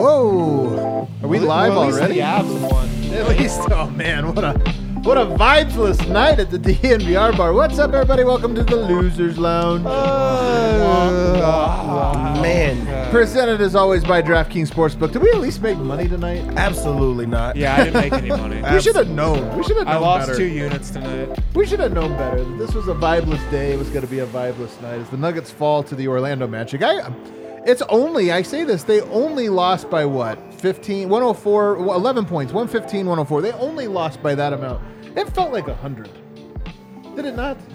Whoa! Are we live already? The Avs won. At least, oh man, what a vibeless night at the DNVR bar. What's up, everybody? Welcome to the Losers Lounge. Man, Presented as always by DraftKings Sportsbook. Did we at least make money tonight? absolutely not. Yeah, I didn't make any money. We should have known. We should have known I lost better. 2 units tonight. We should have known better. This was a vibeless day. It was going to be a vibeless night as the Nuggets fall to the Orlando Magic. I say this, they only lost by what? 104, 11 points, 115, 104. They only lost by that amount. It felt like 100. Did it not?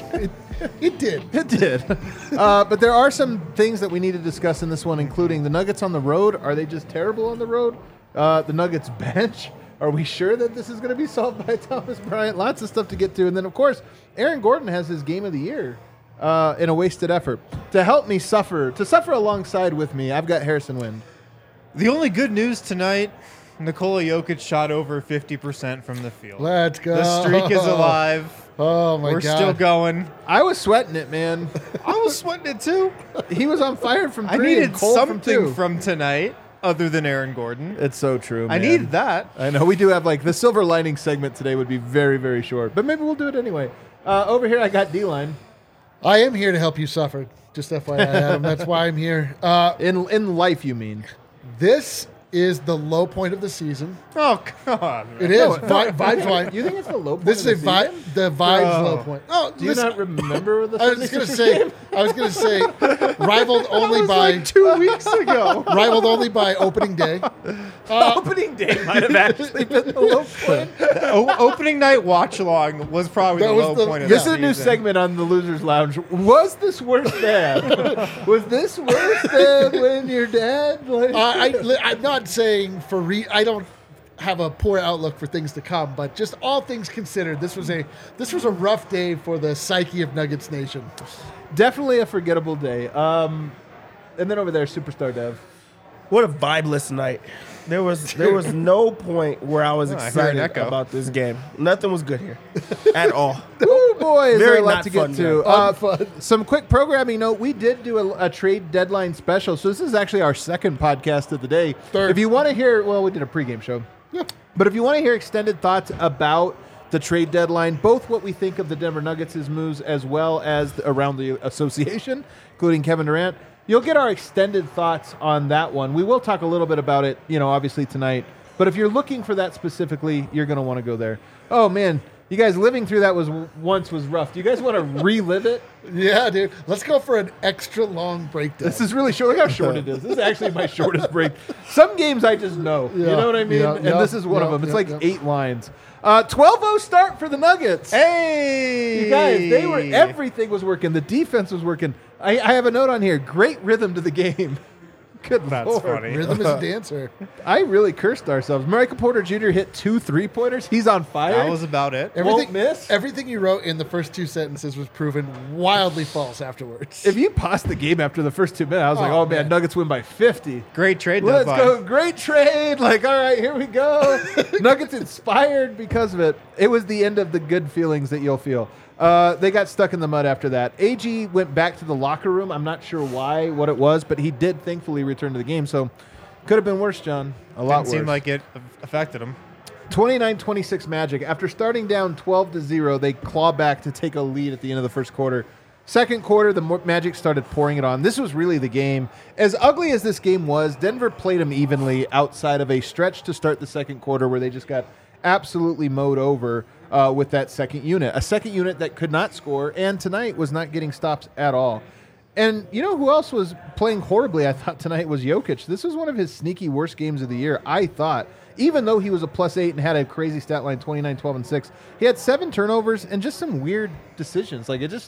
It did. It did. But there are some things that we need to discuss in this one, including the Nuggets on the road. Are they just terrible on the road? The Nuggets bench. Are we sure that this is going to be solved by Thomas Bryant? Lots of stuff to get to. And then, of course, Aaron Gordon has his game of the year in a wasted effort. To help me suffer alongside with me, I've got Harrison Wind. The only good news tonight, Nikola Jokic shot over 50% from the field. Let's go. The streak is alive. Oh, my We're God. still going. I was sweating it, man. I was sweating it too. He was on fire from I three and needed cold from something two. from tonight other than Aaron Gordon. It's so true, man. I needed that. I know. We do have, the silver lining segment today would be very, very short. But maybe we'll do it anyway. Over here, I got D-Line. I am here to help you suffer. Just FYI, Adam. That's why I'm here. In life, you mean? This is the low point of the season. Oh, God. It is. Vibes wine. You think it's the low point This of is the a season? the vibes Oh. low point. Oh, Do you listen, not remember the I was gonna say, rivaled only by 2 weeks ago. rivaled only by opening day. Opening day might have actually been the low point. Opening night watch along was probably That the was low the- point of This the is a new season. segment on the Losers Lounge. Was this worse than? Was this worse than when your dad? I'm not saying I don't have a poor outlook for things to come, but just all things considered, this was a rough day for the psyche of Nuggets Nation. Definitely a forgettable day. And then over there, Superstar Dev. What a vibeless night. There was no point where I was I heard an excited echo. about this game. Nothing was good here at all. Oh boy, is Very there a lot not to get fun, to. Unfun. Some quick programming note: we did do a trade deadline special, so this is actually our second podcast of the day. Third. If you want to hear, we did a pregame show. Yeah. But if you want to hear extended thoughts about the trade deadline, both what we think of the Denver Nuggets' moves as well as around the association, including Kevin Durant, you'll get our extended thoughts on that one. We will talk a little bit about it, obviously tonight. But if you're looking for that specifically, you're going to want to go there. Oh, man. You guys living through that was rough. Do you guys want to relive it? Yeah, dude. Let's go for an extra long breakdown. This is really short. Look how short it is. This is actually my shortest break. Some games I just know. You Yeah, know what I mean? yeah, And yeah, this is one of yeah, them. It's yeah, like yeah. 8 lines. 12-0 start for the Nuggets. Hey! You guys, everything was working. The defense was working. I have a note on here. Great rhythm to the game. Good That's Lord. funny. Rhythm is a dancer. I really cursed ourselves. Michael Porter Jr. hit 2 3-pointers. He's on fire. That was about it. Won't miss. Everything you wrote in the first 2 sentences was proven wildly false afterwards. If you paused the game after the first 2 minutes, I was like, oh, man, Nuggets win by 50. Great trade Let's deadline. go. Great trade. All right, here we go. Nuggets inspired because of it. It was the end of the good feelings that you'll feel. They got stuck in the mud after that. AG went back to the locker room. I'm not sure what it was, but he did thankfully return to the game. So could have been worse, John. A lot Didn't worse. seem like it affected him. 29-26 Magic. After starting down 12-0, they claw back to take a lead at the end of the first quarter. Second quarter, the Magic started pouring it on. This was really the game. As ugly as this game was, Denver played them evenly outside of a stretch to start the second quarter where they just got absolutely mowed over with that second unit. A second unit that could not score, and tonight was not getting stops at all. And you know who else was playing horribly, I thought, tonight was Jokic. This was one of his sneaky worst games of the year, I thought. Even though he was a +8 and had a crazy stat line, 29, 12, and 6, he had 7 turnovers and just some weird decisions.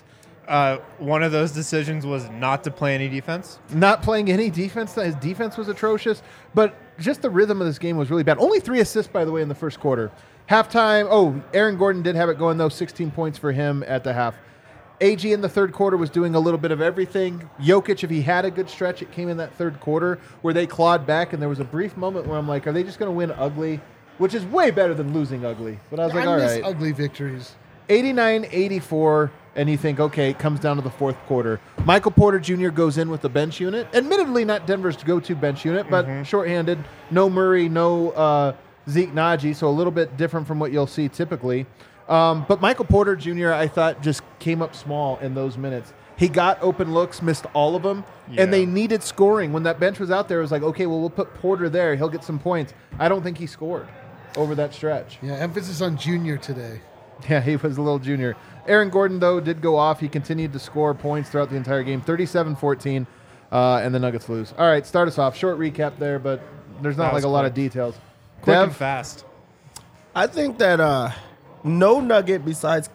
One of those decisions was not to play any defense. Not playing any defense. His defense was atrocious, but just the rhythm of this game was really bad. Only 3 assists, by the way, in the first quarter. Halftime, Aaron Gordon did have it going, though, 16 points for him at the half. AG in the third quarter was doing a little bit of everything. Jokic, if he had a good stretch, it came in that third quarter where they clawed back, and there was a brief moment where I'm like, are they just going to win ugly? Which is way better than losing ugly. But I was like, all miss right. ugly victories. 89-84. and you think, okay, it comes down to the fourth quarter. Michael Porter Jr. goes in with the bench unit. Admittedly, not Denver's go-to bench unit, but shorthanded. No Murray, no Zeke Naji, so a little bit different from what you'll see typically. But Michael Porter Jr., I thought, just came up small in those minutes. He got open looks, missed all of them, and they needed scoring. When that bench was out there, it was like, okay, well, we'll put Porter there. He'll get some points. I don't think he scored over that stretch. Yeah, emphasis on junior today. Yeah, he was a little junior. Aaron Gordon, though, did go off. He continued to score points throughout the entire game, 37-14, and the Nuggets lose. All right, start us off. Short recap there, but there's not like a lot of details. Quick and Dev? fast. I think that no Nugget besides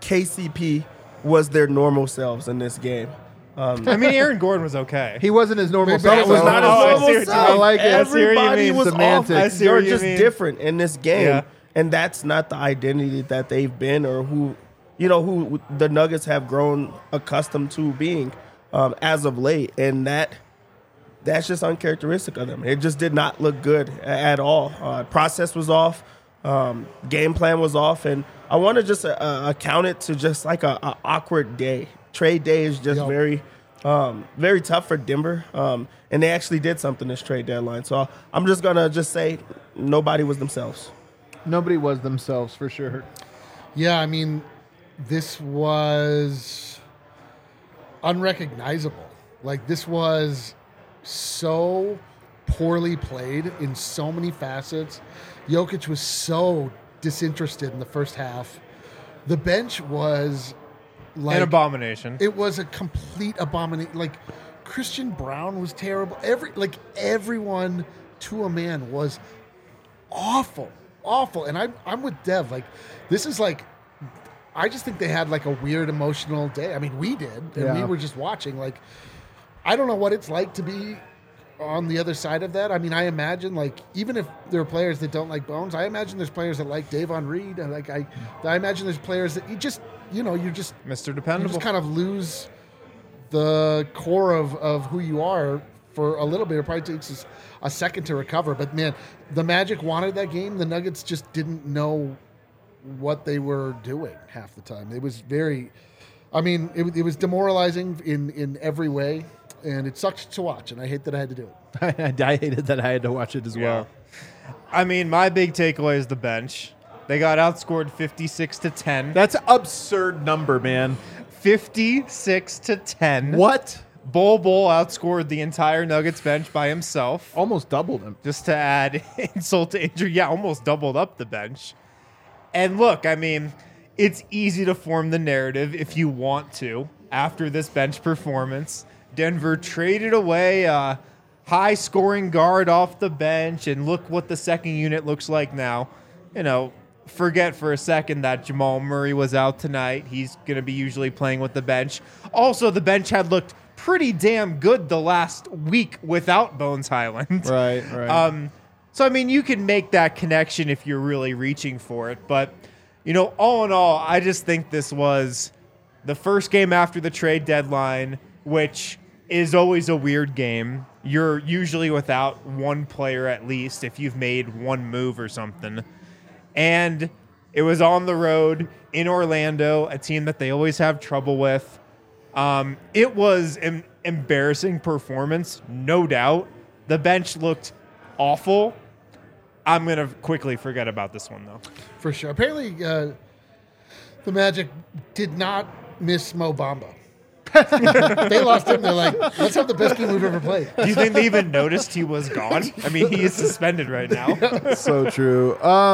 KCP was their normal selves in this game. I mean, Aaron Gordon was okay. He wasn't his normal Maybe self. that was not his normal I see what you self. mean. I like it. I see what you Everybody mean. was Semantics. I off. see what You're you just mean. different in this game, Yeah. and that's not the identity that they've been or who the Nuggets have grown accustomed to being as of late, and that's just uncharacteristic of them. It just did not look good at all. Process was off. Game plan was off, and I want to just account it to just like a awkward day. Trade day is just very tough for Denver, and they actually did something this trade deadline. So I'm just gonna say nobody was themselves. Nobody was themselves, for sure. Yeah, I mean, this was unrecognizable. Like, this was so poorly played in so many facets. Jokic was so disinterested in the first half. The bench was like An abomination. It was a complete abomination. Like, Christian Brown was terrible. Everyone to a man was awful. And I'm with Dev. Like, this is like, I just think they had like a weird emotional day. I mean, we did, and we were just watching. Like, I don't know what it's like to be on the other side of that. I mean, I imagine, like, even if there are players that don't like Bones, I imagine there's players that like Davon Reed. And like, I imagine there's players that you just Mr. Dependable. you just kind of lose the core of who you are for a little bit. It probably takes us a second to recover. But, man, the Magic wanted that game. The Nuggets just didn't know what they were doing half the time. It was very – I mean, it was demoralizing in every way, and it sucked to watch, and I hate that I had to do it. I hated that I had to watch it as well. I mean, my big takeaway is the bench. They got outscored 56-10. That's an absurd number, man. 56-10. What? Bol outscored the entire Nuggets bench by himself. Almost doubled him. Just to add insult to injury. Yeah, almost doubled up the bench. And look, I mean, it's easy to form the narrative if you want to after this bench performance. Denver traded away a high-scoring guard off the bench, and look what the second unit looks like now. You know, forget for a second that Jamal Murray was out tonight. He's going to be usually playing with the bench. Also, the bench had looked pretty damn good the last week without Bones Highland. Right. So, I mean, you can make that connection if you're really reaching for it. But, you know, all in all, I just think this was the first game after the trade deadline, which is always a weird game. You're usually without one player at least if you've made one move or something. And it was on the road in Orlando, a team that they always have trouble with. It was an embarrassing performance, no doubt. The bench looked awful. I'm going to quickly forget about this one, though. For sure. Apparently, the Magic did not miss Mo Bamba. They lost him. They're like, let's have the best game we've ever played. Do you think they even noticed he was gone? I mean, he is suspended right now. So true.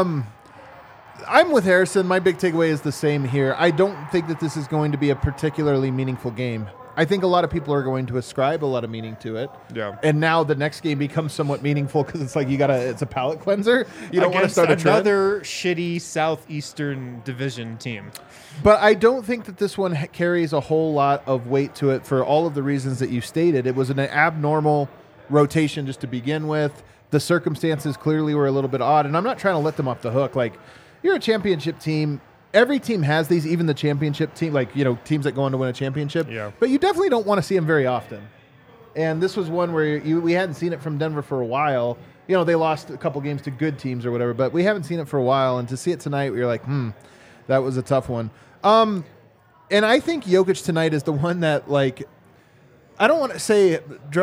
I'm with Harrison. My big takeaway is the same here. I don't think that this is going to be a particularly meaningful game. I think a lot of people are going to ascribe a lot of meaning to it. Yeah. And now the next game becomes somewhat meaningful because it's like it's a palate cleanser. You don't want to Against start a trend. another shitty Southeastern Division team. But I don't think that this one carries a whole lot of weight to it for all of the reasons that you stated. It was an abnormal rotation just to begin with. The circumstances clearly were a little bit odd, and I'm not trying to let them off the hook. Like, you're a championship team. Every team has these, even the championship team, like, you know, teams that go on to win a championship. Yeah. But you definitely don't want to see them very often. And this was one where we hadn't seen it from Denver for a while. You know, they lost a couple games to good teams or whatever, but we haven't seen it for a while. And to see it tonight, we were like, that was a tough one. And I think Jokic tonight is the one that, like, I don't want to say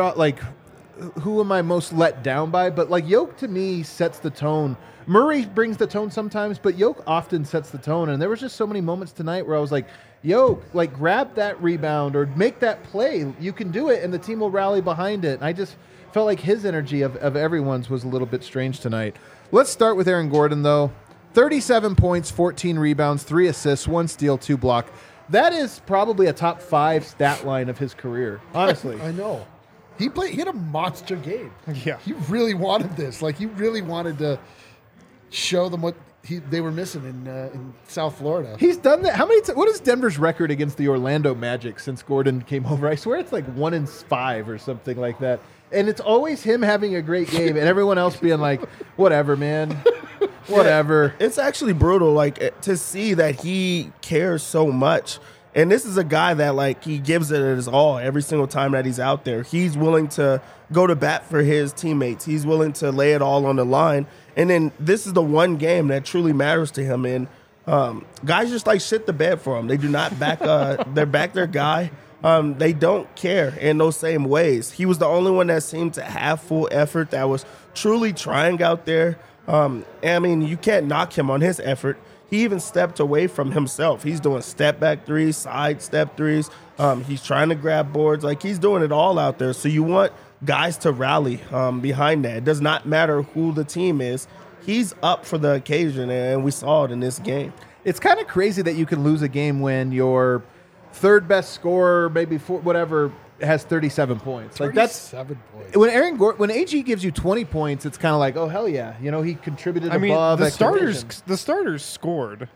who am I most let down by, but like Jokic to me sets the tone. Murray brings the tone sometimes, but Jokic often sets the tone. And there was just so many moments tonight where I was like, Jokic, like, grab that rebound or make that play. You can do it, and the team will rally behind it. And I just felt like his energy of everyone's was a little bit strange tonight. Let's start with Aaron Gordon, though. 37 points, 14 rebounds, 3 assists, 1 steal, 2 block. That is probably a top 5 stat line of his career, honestly. I know. He had a monster game. Yeah. He really wanted this. Like, he really wanted to show them what they were missing in South Florida. He's done that. How many? What is Denver's record against the Orlando Magic since Gordon came over? I swear it's like 1-5 or something like that. And it's always him having a great game and everyone else being like, whatever, man. Whatever. It's actually brutal, like, to see that he cares so much. And this is a guy that, like, he gives it his all every single time that he's out there. He's willing to go to bat for his teammates. He's willing to lay it all on the line. And then this is the one game that truly matters to him. And guys just, like, shit the bed for him. They do not back their guy. They don't care in those same ways. He was the only one that seemed to have full effort, that was truly trying out there. I mean, you can't knock him on his effort. He even stepped away from himself. He's doing step back threes, side step threes. He's trying to grab boards. Like, he's doing it all out there. So you want guys to rally behind that. It does not matter who the team is. He's up for the occasion, and we saw it in this game. It's kind of crazy that you can lose a game when your third best scorer, maybe whatever, has 37 points. Like, that's 7 points. when AG gives you 20 points, it's kind of like, oh hell yeah, he contributed above. The starters scored.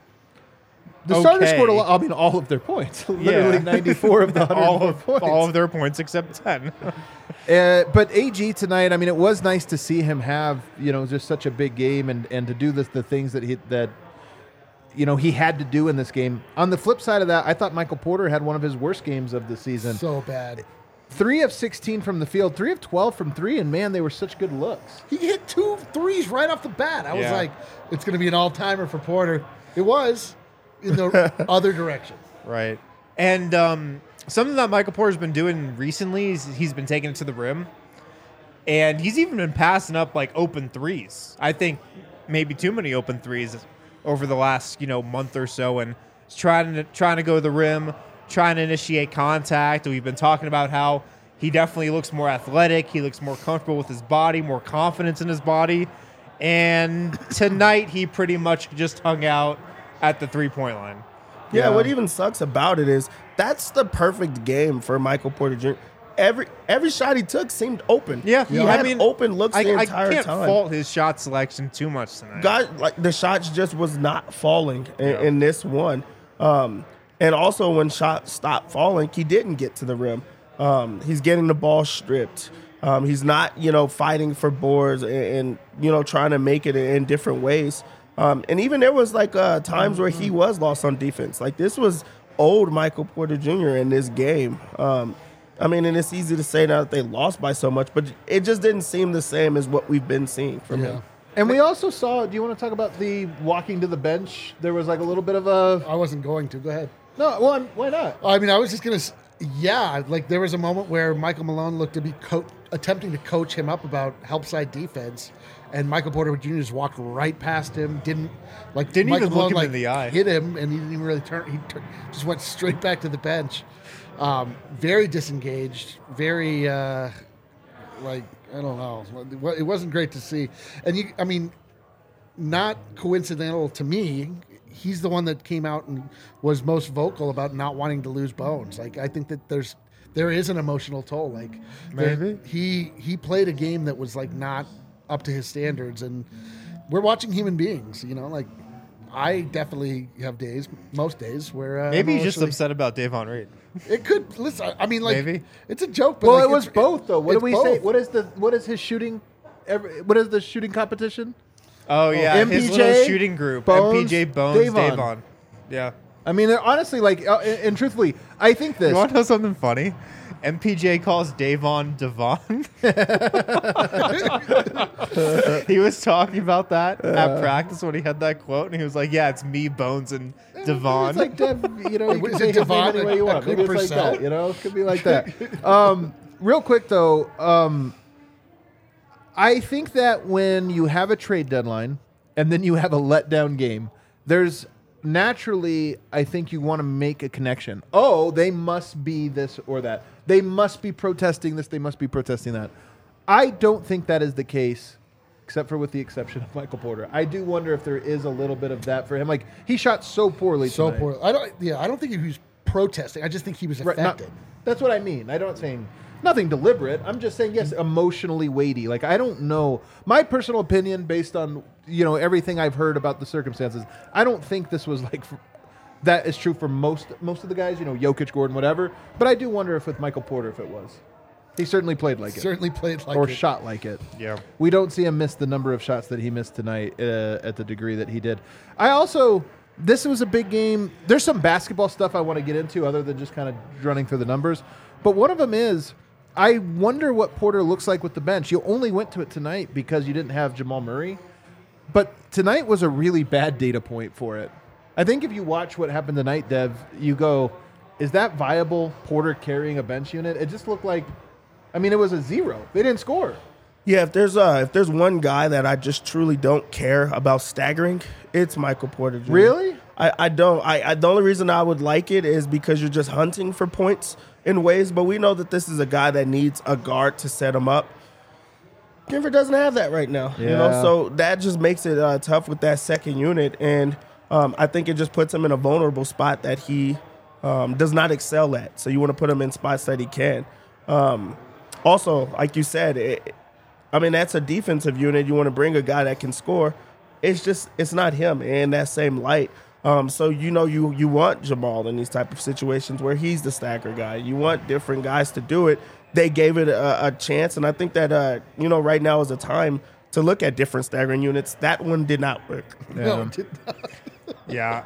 The starters scored a lot. I mean, all of their points. Literally 94 of the 104 points. All of their points except 10. But AG tonight, I mean, it was nice to see him have just such a big game and to do the things that he had to do in this game. On the flip side of that, I thought Michael Porter had one of his worst games of the season. So bad. 3 of 16 from the field, 3 of 12 from 3, and man, they were such good looks. He hit 2 threes right off the bat. I was like, it's going to be an all-timer for Porter. It was in the other direction. Right. And something that Michael Porter's been doing recently is he's been taking it to the rim. And he's even been passing up, like, open threes. I think maybe too many open threes over the last, month or so, and trying to go to the rim, trying to initiate contact. We've been talking about how he definitely looks more athletic. He looks more comfortable with his body, more confidence in his body. And tonight he pretty much just hung out at the three-point line. Yeah, what even sucks about it is that's the perfect game for Michael Porter Jr. Every shot he took seemed open. Yeah, he had open looks the entire time. I can't fault his shot selection too much tonight. God, like, the shots just was not falling in this one. And also when shots stopped falling, he didn't get to the rim. He's getting the ball stripped. He's not, fighting for boards and trying to make it in different ways. And even there was like times where he was lost on defense. Like, this was old Michael Porter Jr. in this game. And it's easy to say now that they lost by so much, but it just didn't seem the same as what we've been seeing from him. And we also saw, do you want to talk about the walking to the bench? There was like a little bit of a... I wasn't going to. Go ahead. No, well, why not? I mean, I was just going to... Yeah, like, there was a moment where Michael Malone looked to be attempting to coach him up about help side defense, and Michael Porter Jr. just walked right past him, didn't Michael even look him in the eye. Hit him, and he didn't even really turn. He just went straight back to the bench. Very disengaged, very, I don't know. It wasn't great to see. And not coincidental to me, he's the one that came out and was most vocal about not wanting to lose Bones. Like, I think that there is an emotional toll. Like, maybe he played a game that was like not up to his standards, and we're watching human beings. Like, I definitely have most days where maybe he's just upset about Davon Reed. It could. Listen, maybe it's a joke. But well, it was both though. What do we say? What is his shooting? What is the shooting competition? Oh yeah, MPJ, his little shooting group. Bones, MPJ, Bones, Davon. Yeah. I mean, they're honestly like, and truthfully, I think this. You want to know something funny? MPJ calls Davon Devon. He was talking about that at practice when he had that quote, and he was like, "Yeah, it's me, Bones, and Devon." It's like Dev, you know, you Is can it say his name Devon any way you want. a Maybe good it's like percent? that, you know? It could be like that. Real quick, though, I think that when you have a trade deadline and then you have a letdown game, there's naturally, I think you want to make a connection. Oh, they must be this or that. They must be protesting this. They must be protesting that. I don't think that is the case, except for with the exception of Michael Porter. I do wonder if there is a little bit of that for him. Like, he shot so poorly So tonight. poor. I don't think he was protesting. I just think he was Right, affected. that's what I mean. I'm not saying nothing deliberate. I'm just saying, yes, emotionally weighty. Like, I don't know. My personal opinion, based on, you know, everything I've heard about the circumstances, I don't think this was like that is true for most of the guys, you know, Jokic, Gordon, whatever. But I do wonder if with Michael Porter, if it was. He certainly played like it. Certainly played like Or it. shot like it. Yeah. We don't see him miss the number of shots that he missed tonight at the degree that he did. This was a big game. There's some basketball stuff I want to get into other than just kind of running through the numbers. But one of them is, I wonder what Porter looks like with the bench. You only went to it tonight because you didn't have Jamal Murray. But tonight was a really bad data point for it. I think if you watch what happened tonight, Dev, you go, is that viable, Porter carrying a bench unit? It just looked like, I mean, it was a 0. They didn't score. Yeah, if there's one guy that I just truly don't care about staggering, it's Michael Porter Jr. Really? I don't. The only reason I would like it is because you're just hunting for points in ways, but we know that this is a guy that needs a guard to set him up. Denver doesn't have that right now, you know, Yeah. so that just makes it tough with that second unit, and I think it just puts him in a vulnerable spot that he does not excel at. So you want to put him in spots that he can. Also, like you said, that's a defensive unit. You want to bring a guy that can score. It's not him in that same light. So you want Jamal in these type of situations where he's the stagger guy. You want different guys to do it. They gave it a chance, and I think that right now is a time to look at different staggering units. That one did not work. No, it did not. Yeah,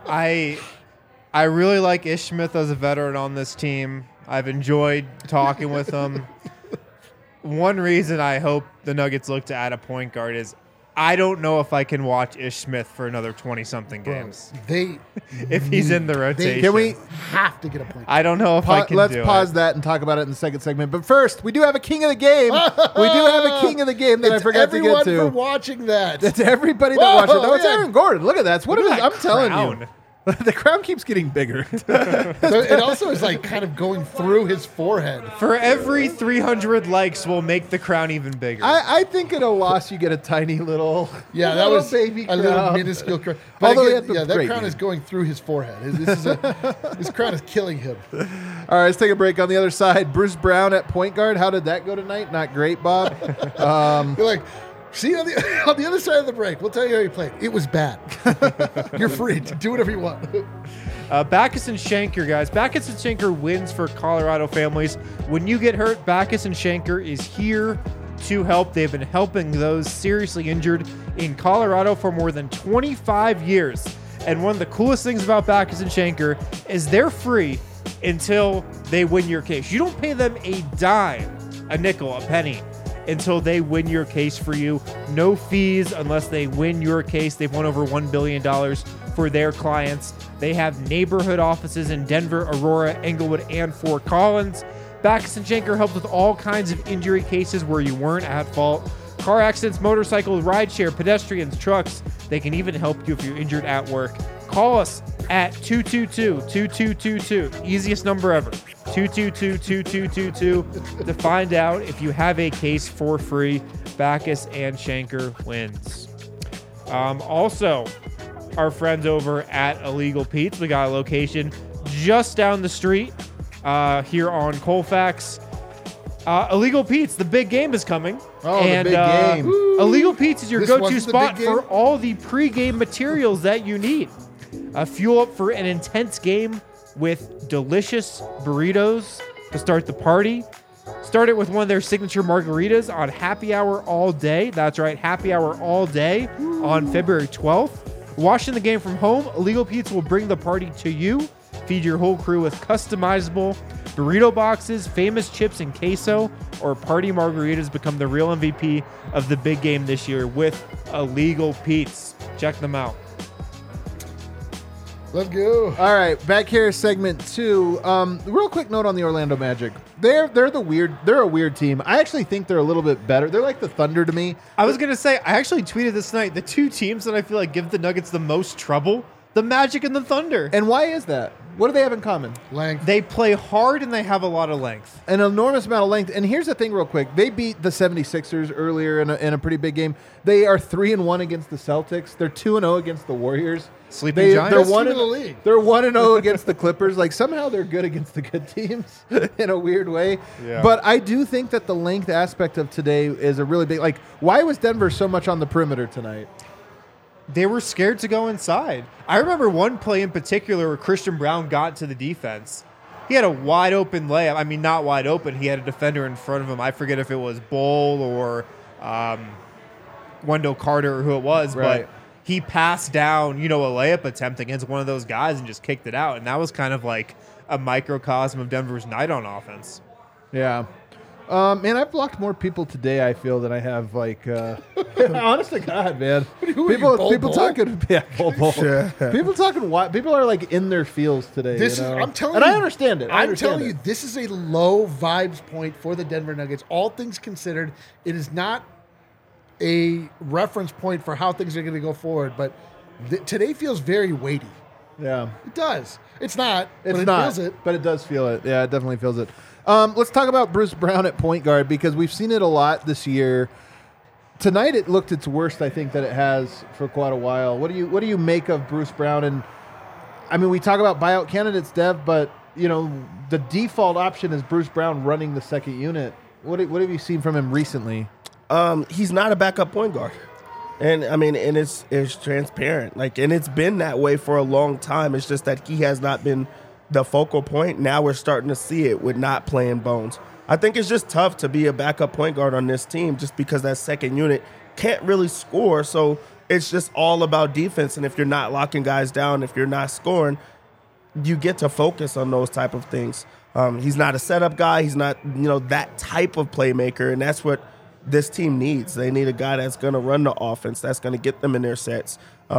I really like Ish Smith as a veteran on this team. I've enjoyed talking with him. One reason I hope the Nuggets look to add a point guard is I don't know if I can watch Ish Smith for another 20-something games if he's in the rotation. Can we have to get a point. I don't know if I can let's do pause it. that and talk about it in the second segment. But first, we do have a king of the game. We do have a king of the game that I It's forgot to everyone get for to. watching that. It's everybody that Whoa, watched it. No, it's yeah. Aaron Gordon. Look at that. It's what Look it at is. I'm that telling crown. you. The crown keeps getting bigger. So it also is like kind of going through his forehead. For every 300 likes, we'll make the crown even bigger. I think at a loss you get a tiny little, Yeah, that little was baby a little crown. minuscule crown. But Although he again, had the that great crown game. is going through his forehead. His crown is killing him. All right, let's take a break. On the other side, Bruce Brown at point guard. How did that go tonight? Not great, Bob. You're like, see, on the other side of the break, we'll tell you how he played. It was bad. You're free to do whatever you want. Backus and Shanker, guys. Backus and Shanker wins for Colorado families. When you get hurt, Backus and Shanker is here to help. They've been helping those seriously injured in Colorado for more than 25 years. And one of the coolest things about Backus and Shanker is they're free until they win your case. You don't pay them a dime, a nickel, a penny until they win your case for you. No fees unless they win your case. They've won over $1 billion for their clients. They have neighborhood offices in Denver, Aurora, Englewood, and Fort Collins. Backus and Shanker helps with all kinds of injury cases where you weren't at fault. Car accidents, motorcycles, rideshare, pedestrians, trucks. They can even help you if you're injured at work. Call us at 222-2222. Easiest number ever. 222-2222 to find out if you have a case for free. Backus and Shanker wins. Also, our friends over at Illegal Pete's. We got a location just down the street here on Colfax. Illegal Pete's, the big game is coming. Oh, the big game. Illegal Pete's is your This go-to wasn't the spot big game? for all the pre-game materials that you need. Fuel up for an intense game with delicious burritos to start the party. Start it with one of their signature margaritas on happy hour all day. That's right, happy hour all day on February 12th. Watching the game from home, Illegal Pete's will bring the party to you. Feed your whole crew with customizable burrito boxes, famous chips and queso, or party margaritas. Become the real MVP of the big game this year with Illegal Pete's. Check them out. Let's go. All right, back here, segment 2. Real quick note on the Orlando Magic. They're a weird team. I actually think they're a little bit better. They're like the Thunder to me. I was going to say, I actually tweeted this night, the two teams that I feel like give the Nuggets the most trouble, the Magic and the Thunder. And why is that? What do they have in common? Length. They play hard and they have a lot of length. An enormous amount of length. And here's the thing real quick. They beat the 76ers earlier in a pretty big game. They are 3-1 against the Celtics. They're 2-0 against the Warriors. Sleeping Giants? They're Best one team in and the league. They're 1-0 against the Clippers. Like somehow they're good against the good teams in a weird way. Yeah. But I do think that the length aspect of today is a really big. Like, why was Denver so much on the perimeter tonight? They were scared to go inside. I remember one play in particular where Christian Brown got to the defense. He had a wide open layup. I mean, not wide open. He had a defender in front of him. I forget if it was Bull or Wendell Carter or who it was, Right. but he passed down, a layup attempt against one of those guys and just kicked it out. And that was kind of like a microcosm of Denver's night on offense. Yeah. Man, I've blocked more people today, I feel, than I have, honest to God, man. Who are you, Bull? Talking, yeah, Bull. Yeah. People talking, people are like in their feels today. This you is. know? I'm telling and you. I understand it. I'm telling you, this is a low vibes point for the Denver Nuggets. All things considered, it is not a reference point for how things are going to go forward. But today feels very weighty. Yeah. It does. It's not. It's but it not, feels it. but it does feel it. Yeah, it definitely feels it. Let's talk about Bruce Brown at point guard because we've seen it a lot this year. Tonight it looked its worst, I think, that it has for quite a while. What do you make of Bruce Brown? And I mean, we talk about buyout candidates, Dev, but the default option is Bruce Brown running the second unit. What have you seen from him recently? He's not a backup point guard. And I mean, and it's transparent. And it's been that way for a long time. It's just that he has not been the focal point. Now we're starting to see it with not playing Bones. I think it's just tough to be a backup point guard on this team just because that second unit can't really score. So it's just all about defense. And if you're not locking guys down, if you're not scoring, you get to focus on those type of things. He's not a setup guy. He's not, that type of playmaker. And that's what this team needs. They need a guy that's going to run the offense, that's going to get them in their sets.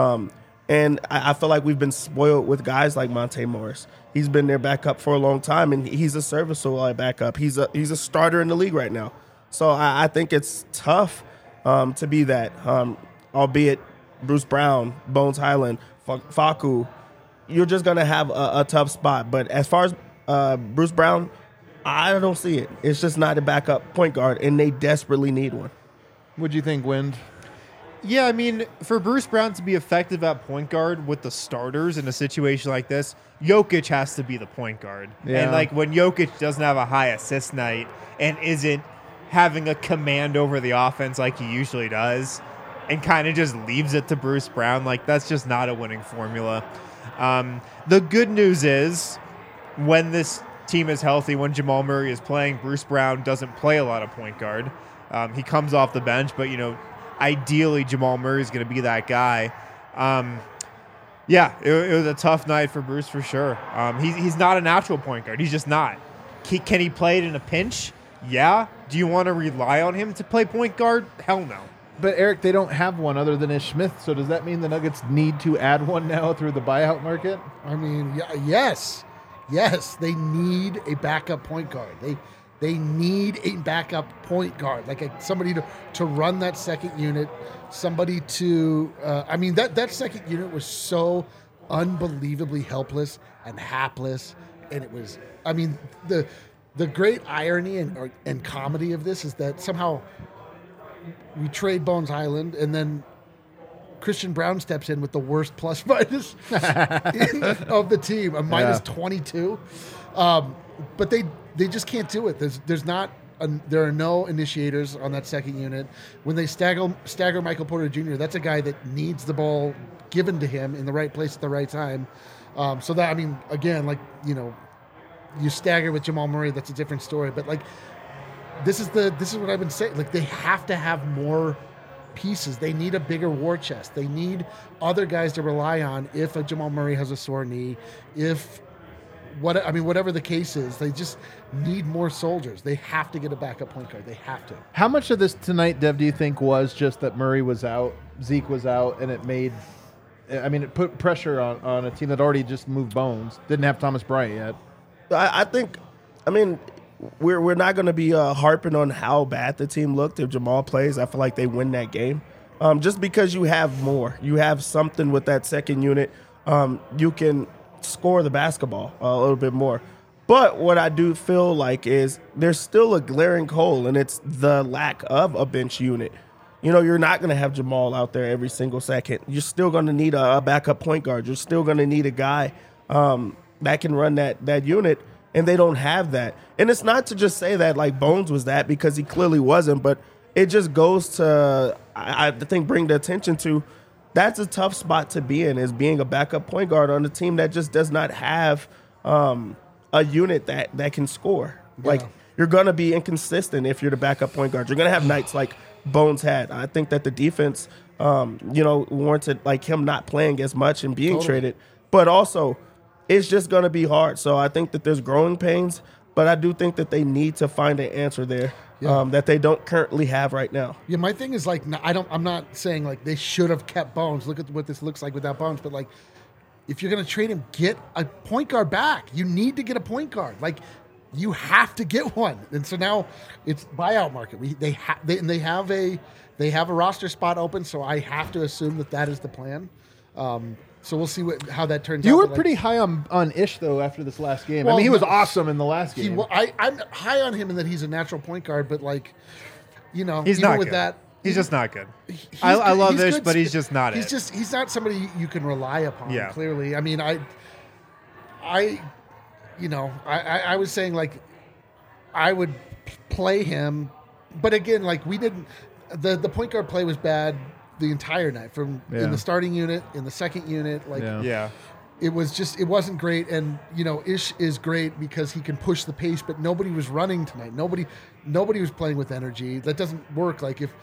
And I feel like we've been spoiled with guys like Monte Morris. He's been their backup for a long time, and he's a serviceable backup. He's a starter in the league right now. So I think it's tough to be that, albeit Bruce Brown, Bones Highland, Facu, you're just going to have a tough spot. But as far as Bruce Brown, I don't see it. It's just not a backup point guard, and they desperately need one. What'd you think, Wind? Yeah, I mean, for Bruce Brown to be effective at point guard with the starters in a situation like this, Jokic has to be the point guard. Yeah. And when Jokic doesn't have a high assist night and isn't having a command over the offense like he usually does and kind of just leaves it to Bruce Brown, that's just not a winning formula. The good news is when this team is healthy, when Jamal Murray is playing, Bruce Brown doesn't play a lot of point guard. He comes off the bench, but, ideally Jamal Murray is going to be that guy. It was a tough night for Bruce for sure. He's not a natural point guard. He's just not. Can he play it in a pinch? Yeah. Do you want to rely on him to play point guard? Hell no. But Eric, they don't have one other than Ish Smith. So does that mean the Nuggets need to add one now through the buyout market? I mean, yes, they need a backup point guard. They need a backup point guard, somebody to run that second unit, somebody to. That second unit was so unbelievably helpless and hapless, and it was. I mean, the great irony and comedy of this is that somehow we trade Bones Highland, and then Christian Brown steps in with the worst plus minus of the team, a minus 22. But they just can't do it. There are no initiators on that second unit. When they stagger Michael Porter Jr., that's a guy that needs the ball given to him in the right place at the right time. You stagger with Jamal Murray, that's a different story. But this is what I've been saying. They have to have more pieces. They need a bigger war chest. They need other guys to rely on if a Jamal Murray has a sore knee, if whatever the case is, they just need more soldiers. They have to get a backup point guard. They have to. How much of this tonight, Dev, do you think was just that Murray was out, Zeke was out, and it put pressure on a team that already just moved bones, didn't have Thomas Bryant yet? I think, we're not going to be harping on how bad the team looked. If Jamal plays, I feel like they win that game. Just because you have more. You have something with that second unit. You can score the basketball a little bit more. But what I do feel like is there's still a glaring hole, and it's the lack of a bench unit. You're not going to have Jamal out there every single second. You're still going to need a backup point guard. You're still going to need a guy that can run that unit, and they don't have that. And it's not to just say that like Bones was that, because he clearly wasn't, but it just goes to, I think, bring the attention to that's a tough spot to be in, is being a backup point guard on a team that just does not have a unit that can score. Yeah. Like, you're going to be inconsistent if you're the backup point guard. You're going to have nights like Bones had. I think that the defense, warranted like him not playing as much and being traded. But also, it's just going to be hard. So I think that there's growing pains, but I do think that they need to find an answer there that they don't currently have right now. Yeah, my thing is like I'm not saying like they should have kept Bones. Look at what this looks like without Bones. But like, if you're going to trade him, get a point guard back. You need to get a point guard. Like, you have to get one. And so now it's buyout market. They have a roster spot open. So I have to assume that is the plan. So we'll see how that turns out. You were pretty high on Ish, though, after this last game. Well, he was awesome in the last game. I'm high on him in that he's a natural point guard, but like, he's even not with good. that, He's just not good. I love Ish, but he's just not it. He's not somebody you can rely upon. Yeah. Clearly, I mean, I was saying like I would play him, but again, like we didn't. The point guard play was bad the entire night, from in the starting unit, in the second unit. Like, it wasn't great. And Ish is great because he can push the pace, but nobody was running tonight. Nobody was playing with energy. That doesn't work. Like if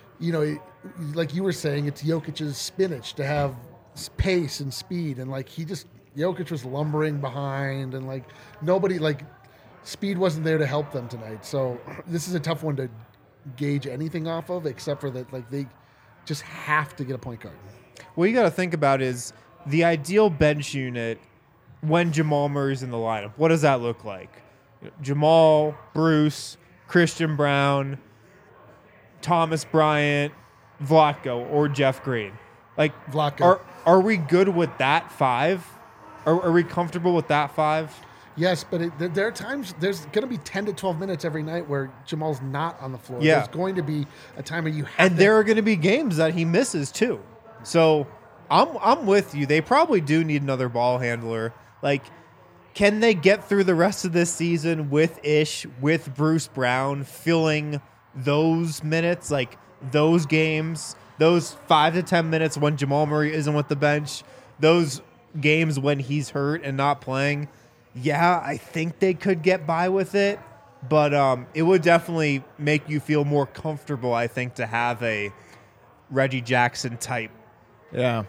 like you were saying, it's Jokic's spinach to have pace and speed, and like Jokic was lumbering behind, and like nobody, like speed wasn't there to help them tonight. So this is a tough one to gauge anything off of, except for that like they just have to get a point guard. What you got to think about is the ideal bench unit when Jamal Murray's in the lineup. What does that look like? Jamal, Bruce, Christian Brown, Thomas Bryant, Vlatko, or Jeff Green. Like, Vlatko. Are we good with that five? Are we comfortable with that five? Yes, but there are times, there's going to be 10 to 12 minutes every night where Jamal's not on the floor. Yeah. There's going to be a time where you have and there are going to be games that he misses too. So I'm with you. They probably do need another ball handler. Like, can they get through the rest of this season with Ish, with Bruce Brown, filling those minutes, like those games, those 5 to 10 minutes when Jamal Murray isn't with the bench, those games when he's hurt and not playing? Yeah, I think they could get by with it, but it would definitely make you feel more comfortable, I think, to have a Reggie Jackson type. Yeah,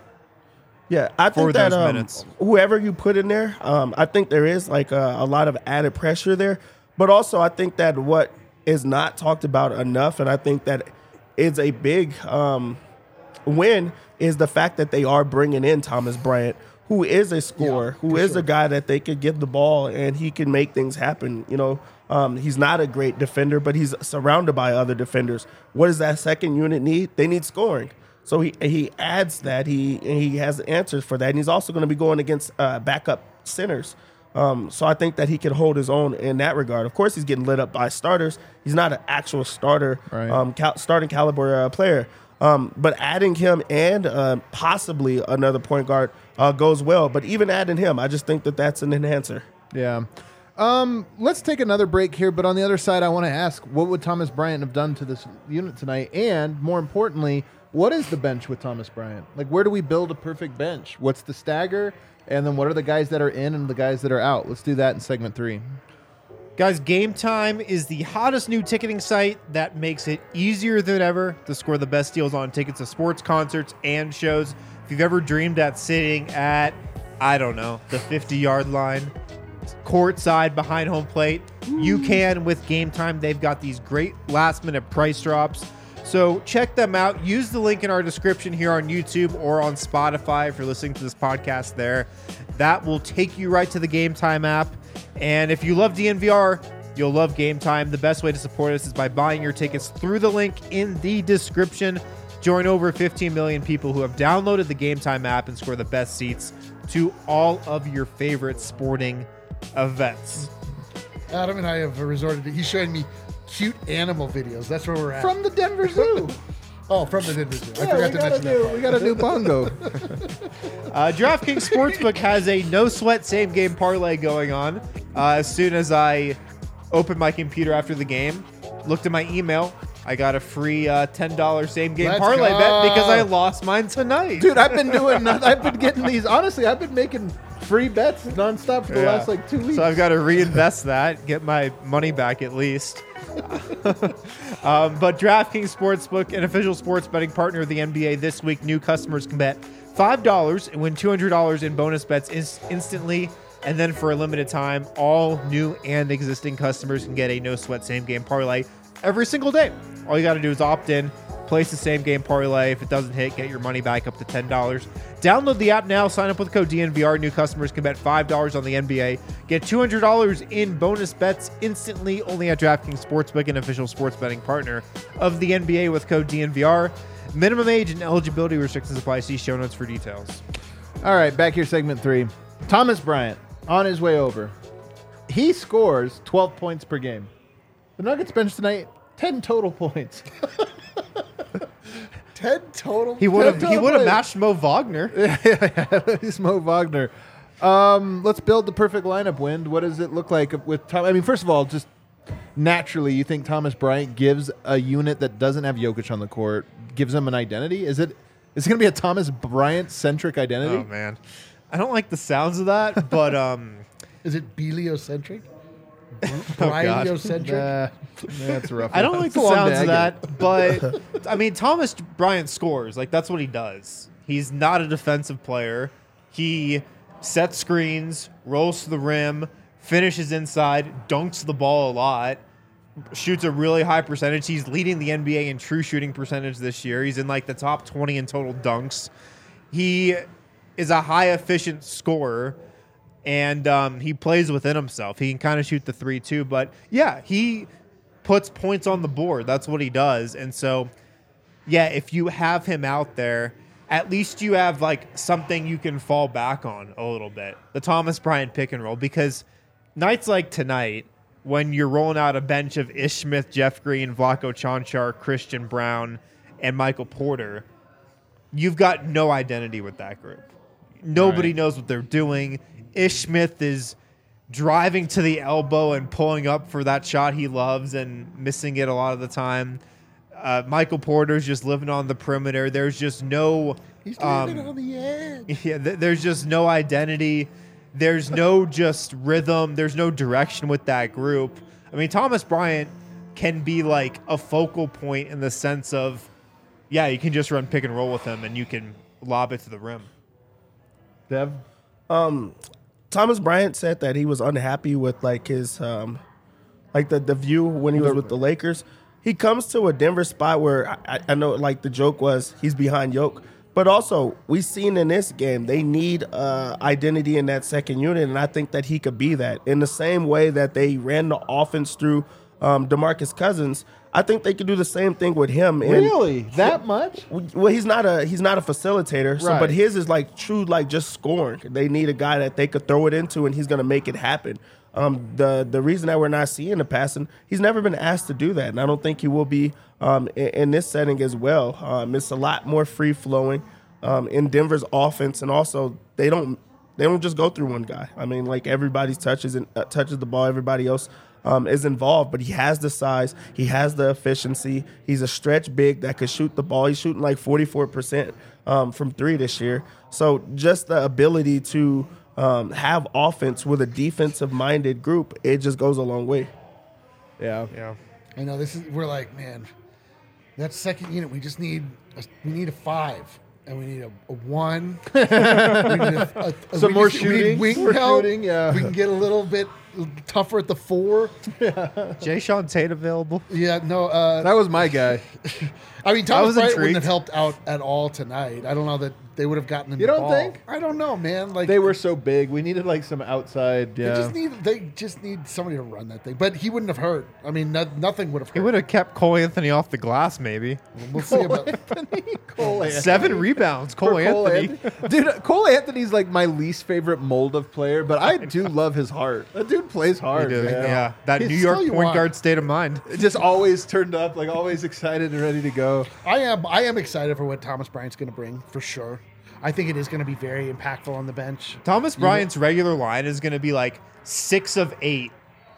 I think that minutes. Whoever you put in there, I think there is like a lot of added pressure there. But also, I think that what is not talked about enough, and I think that is a big win, is the fact that they are bringing in Thomas Bryant, who is a scorer, who is a guy that they could give the ball and he can make things happen. He's not a great defender, but he's surrounded by other defenders. What does that second unit need? They need scoring. So he adds that. He has answers for that. And he's also going to be going against backup centers. So I think that he can hold his own in that regard. Of course, he's getting lit up by starters. He's not an actual starter, starting caliber player. But adding him and possibly another point guard goes well. But even adding him, I just think that that's an enhancer. Yeah. Let's take another break here. But on the other side, I want to ask, what would Thomas Bryant have done to this unit tonight? And more importantly, what is the bench with Thomas Bryant? Like, where do we build a perfect bench? What's the stagger? And then what are the guys that are in and the guys that are out? Let's do that in segment 3. Guys, Game Time is the hottest new ticketing site that makes it easier than ever to score the best deals on tickets to sports, concerts, and shows. If you've ever dreamed at sitting at, I don't know, the 50-yard line, courtside behind home plate. You can with Game Time. They've got these great last-minute price drops. So check them out. Use the link in our description here on YouTube or on Spotify if you're listening to this podcast there. That will take you right to the Game Time app. And if you love DNVR, you'll love Game Time. The best way to support us is by buying your tickets through the link in the description. Join over 15 million people who have downloaded the Game Time app and score the best seats to all of your favorite sporting events. Adam and I have resorted to, he's showing me cute animal videos. That's where we're at. From the Denver Zoo. Oh, from the Denver Zoo. I Yeah, forgot to mention that. we got a new bongo. DraftKings Sportsbook has a no-sweat same-game parlay going on. As soon as I opened my computer after the game, looked at my email, I got a free $10 same-game Let's parlay go. bet because I lost mine tonight. Dude, I've been getting these. Honestly, I've been making free bets nonstop for the Yeah. last 2 weeks. So I've got to reinvest that, get my money back at least. But DraftKings Sportsbook, an official sports betting partner of the NBA, this week new customers can bet $5 and win $200 in bonus bets instantly. And then for a limited time, all new and existing customers can get a no-sweat same-game parlay every single day. All you got to do is opt in, place the same-game parlay. If it doesn't hit, get your money back up to $10. Download the app now. Sign up with code DNVR. New customers can bet $5 on the NBA. Get $200 in bonus bets instantly only at DraftKings Sportsbook, an official sports betting partner of the NBA with code DNVR. Minimum age and eligibility restrictions apply. See show notes for details. All right, back here, segment 3. Thomas Bryant on his way over. He scores 12 points per game. The Nuggets bench tonight, 10 total points. 10 total. He would have points. matched Mo Wagner. He's Mo Wagner. Let's build the perfect lineup, Wind. What does it look like with Tom? I mean, first of all, just naturally, you think Thomas Bryant gives a unit that doesn't have Jokic on the court, gives them an identity? Is it going to be a Thomas Bryant-centric identity? Oh, man. I don't like the sounds of that, but Is it Beliocentric? God. Bryaniocentric? That's rough. I don't like It's the a long sounds day, of I get that, but I mean, Thomas Bryant scores. Like, that's what he does. He's not a defensive player. He sets screens, rolls to the rim, finishes inside, dunks the ball a lot, shoots a really high percentage. He's leading the NBA in true shooting percentage this year. He's in like the top 20 in total dunks. He is a high efficient scorer. And he plays within himself. He can kind of shoot the 3 too. But, yeah, he puts points on the board. That's what he does. And so, yeah, if you have him out there, at least you have, like, something you can fall back on a little bit. The Thomas Bryant pick and roll. Because nights like tonight, when you're rolling out a bench of Ish Smith, Jeff Green, Vlatko Čančar, Christian Brown, and Michael Porter, you've got no identity with that group. Nobody knows what they're doing. Ish Smith is driving to the elbow and pulling up for that shot he loves and missing it a lot of the time. Michael Porter's just living on the perimeter. There's just no... He's living on the edge. Yeah, there's just no identity. There's no just rhythm. There's no direction with that group. I mean, Thomas Bryant can be like a focal point in the sense of, yeah, you can just run pick and roll with him and you can lob it to the rim. Dev? Thomas Bryant said that he was unhappy with like his like the view when he was with the Lakers. He comes to a Denver spot where I know like the joke was he's behind Jokic, but also we've seen in this game they need identity in that second unit, and I think that he could be that in the same way that they ran the offense through DeMarcus Cousins. I think they could do the same thing with him. And Really? That much? well, he's not a facilitator, so Right. but his is like true, like just scoring. They need a guy that they could throw it into, and he's going to make it happen. The reason that we're not seeing the passing, he's never been asked to do that, and I don't think he will be in this setting as well. It's a lot more free flowing in Denver's offense, and also they don't just go through one guy. I mean, like everybody touches the ball, everybody else is involved, but he has the size, he has the efficiency. He's a stretch big that could shoot the ball. He's shooting like 44% from 3 this year. So just the ability to have offense with a defensive-minded group, it just goes a long way. Yeah. I know we're like, man, that second unit, we need a 5. And we need a 1. We need Some more we need shooting. wing More help. shooting, yeah. We can get a little bit tougher at the 4. Jay Sean Tate available? Yeah, no. That was my guy. I mean, Thomas was Bryant intrigued. wouldn't have helped out at all tonight. I don't know that they would have gotten him. You the don't ball. think? I don't know, man. Like They were so big. We needed like some outside. They Yeah. just need somebody to run that thing. But he wouldn't have hurt. I mean, nothing would have hurt. He would have kept Cole Anthony off the glass, maybe. We'll see about. Cole Anthony. 7 rebounds, Cole For Anthony. Dude, Cole Anthony's like my least favorite mold of player, but I do love his heart. That dude plays hard. He did, man. yeah, that He's New York still you point want. guard state of mind. Just always turned up, like always excited and ready to go. I am excited for what Thomas Bryant's going to bring for sure. I think it is going to be very impactful on the bench. Thomas Bryant's regular line is going to be like 6 of 8,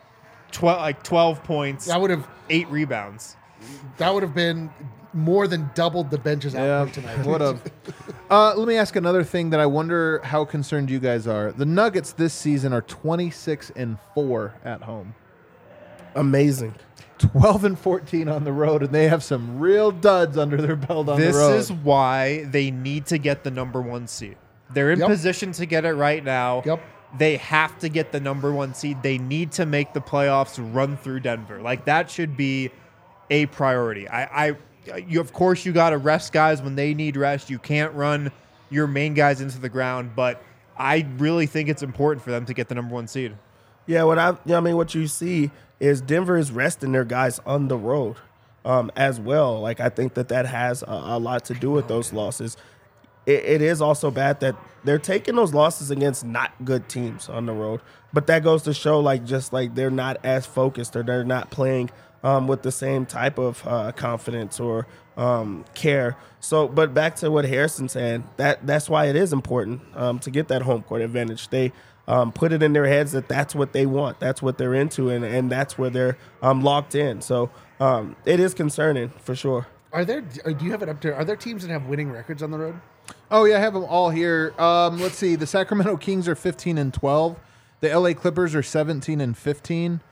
12 points, That would have 8 rebounds. been more than doubled the bench's output tonight. Would have. Let me ask another thing that I wonder how concerned you guys are. The Nuggets this season are 26-4 at home, Amazing. 12-14 on the road, and they have some real duds under their belt on This the road. is why they need to get the number 1 seed. They're in Yep. position to get it right now. Yep. They have to get the number 1 seed. They need to make the playoffs, run through Denver. Like that should be a priority. You of course you got to rest guys when they need rest. You can't run your main guys into the ground, but I really think it's important for them to get the number 1 seed. Yeah, what you see is Denver is resting their guys on the road as well. Like I think that has a lot to do with those losses. It is also bad that they're taking those losses against not good teams on the road, but that goes to show just they're not as focused or they're not playing with the same type of confidence or care. So, but back to what Harrison said, that's why it is important to get that home court advantage. They put it in their heads that that's what they want, that's what they're into, and that's where they're locked in. So it is concerning for sure. Do you have it up there? Are there teams that have winning records on the road? Oh yeah, I have them all here. Let's see. The Sacramento Kings are 15-12. The LA Clippers are 17-15.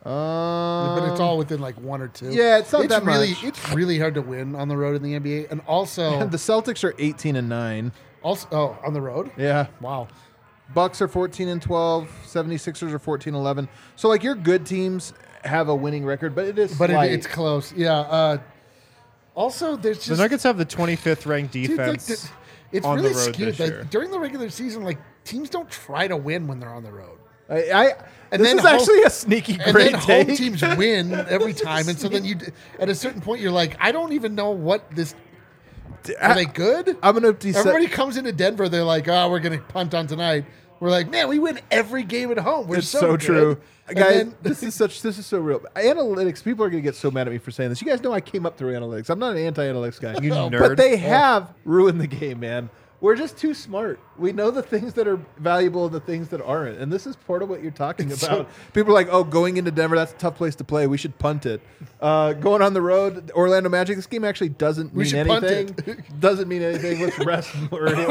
But it's all within like 1 or 2. Yeah, it's not that really, much. It's really hard to win on the road in the NBA, and also The Celtics are 18-9. on the road. Yeah. Wow. Bucks are 14-12. 76ers are 14-11. So like your good teams have a winning record, but it is slight. It's close. Yeah. Also, there's just The Nuggets have the 25th ranked dude, defense. it's on the really road skewed. this year. During the regular season, teams don't try to win when they're on the road. And And this then is actually a sneaky And great then home take. teams win every time, and so then at a certain point you're like, I don't even know what this. Are they good? I'm gonna decide. Everybody comes into Denver, they're like, oh, we're gonna punt on tonight. We're like, man, we win every game at home. We're It's so so good. true, And guys. then- This is so real. Analytics. People are gonna get so mad at me for saying this. You guys know I came up through analytics. I'm not an anti-analytics guy. You But nerd. they have ruined the game, man. We're just too smart. We know the things that are valuable and the things that aren't. And this is part of what you're talking about. People are like, oh, going into Denver, that's a tough place to play. We should punt it. Going on the road, Orlando Magic, this game actually doesn't We mean should punt anything. Doesn't mean anything. Let's rest Murray.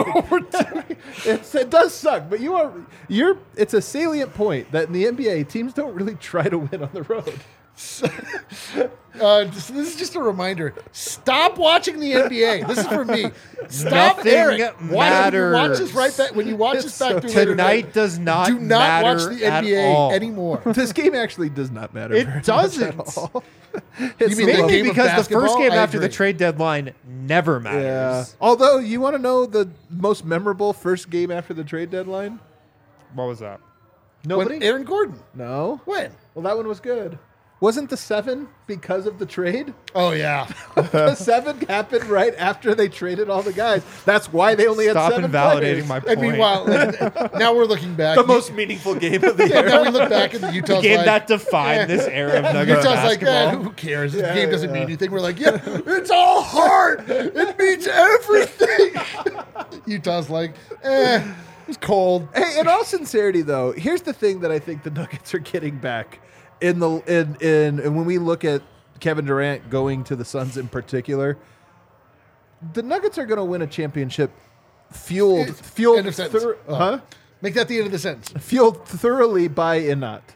It does suck, but it's a salient point that in the NBA, teams don't really try to win on the road. So this is just a reminder. Stop watching the NBA. This is for me. Stop, Nothing Eric. matters. Watch this right back when you watch this back through later Tonight does not do not matter watch the at NBA all. anymore. This game actually does not matter. It very much doesn't. at all. You It's mean a the low- game Maybe of because the first basketball? game I after the agree. trade deadline never matters. Yeah. Although, you want to know the most memorable first game after the trade deadline? What was that? Nobody? When Aaron Gordon. No. When? Well, that one was good. Wasn't the 7 because of the trade? Oh yeah. The 7 happened right after they traded all the guys. That's why they only Stop had 7 invalidating players. my And point. meanwhile, now we're looking back. The most meaningful game of the Yeah, year. now we look back and Utah's game like, that defined this era of Nuggets Utah's like, basketball. who cares? The game doesn't mean anything. We're like, yeah, it's all heart. It means everything. Utah's like, it's cold. Hey, in all sincerity, though, here's the thing that I think the Nuggets are getting back in when we look at Kevin Durant going to the Suns in particular. The Nuggets are going to win a championship fueled End of sentence. thor- huh? Make that the end of the sentence. Fueled thoroughly by Inat.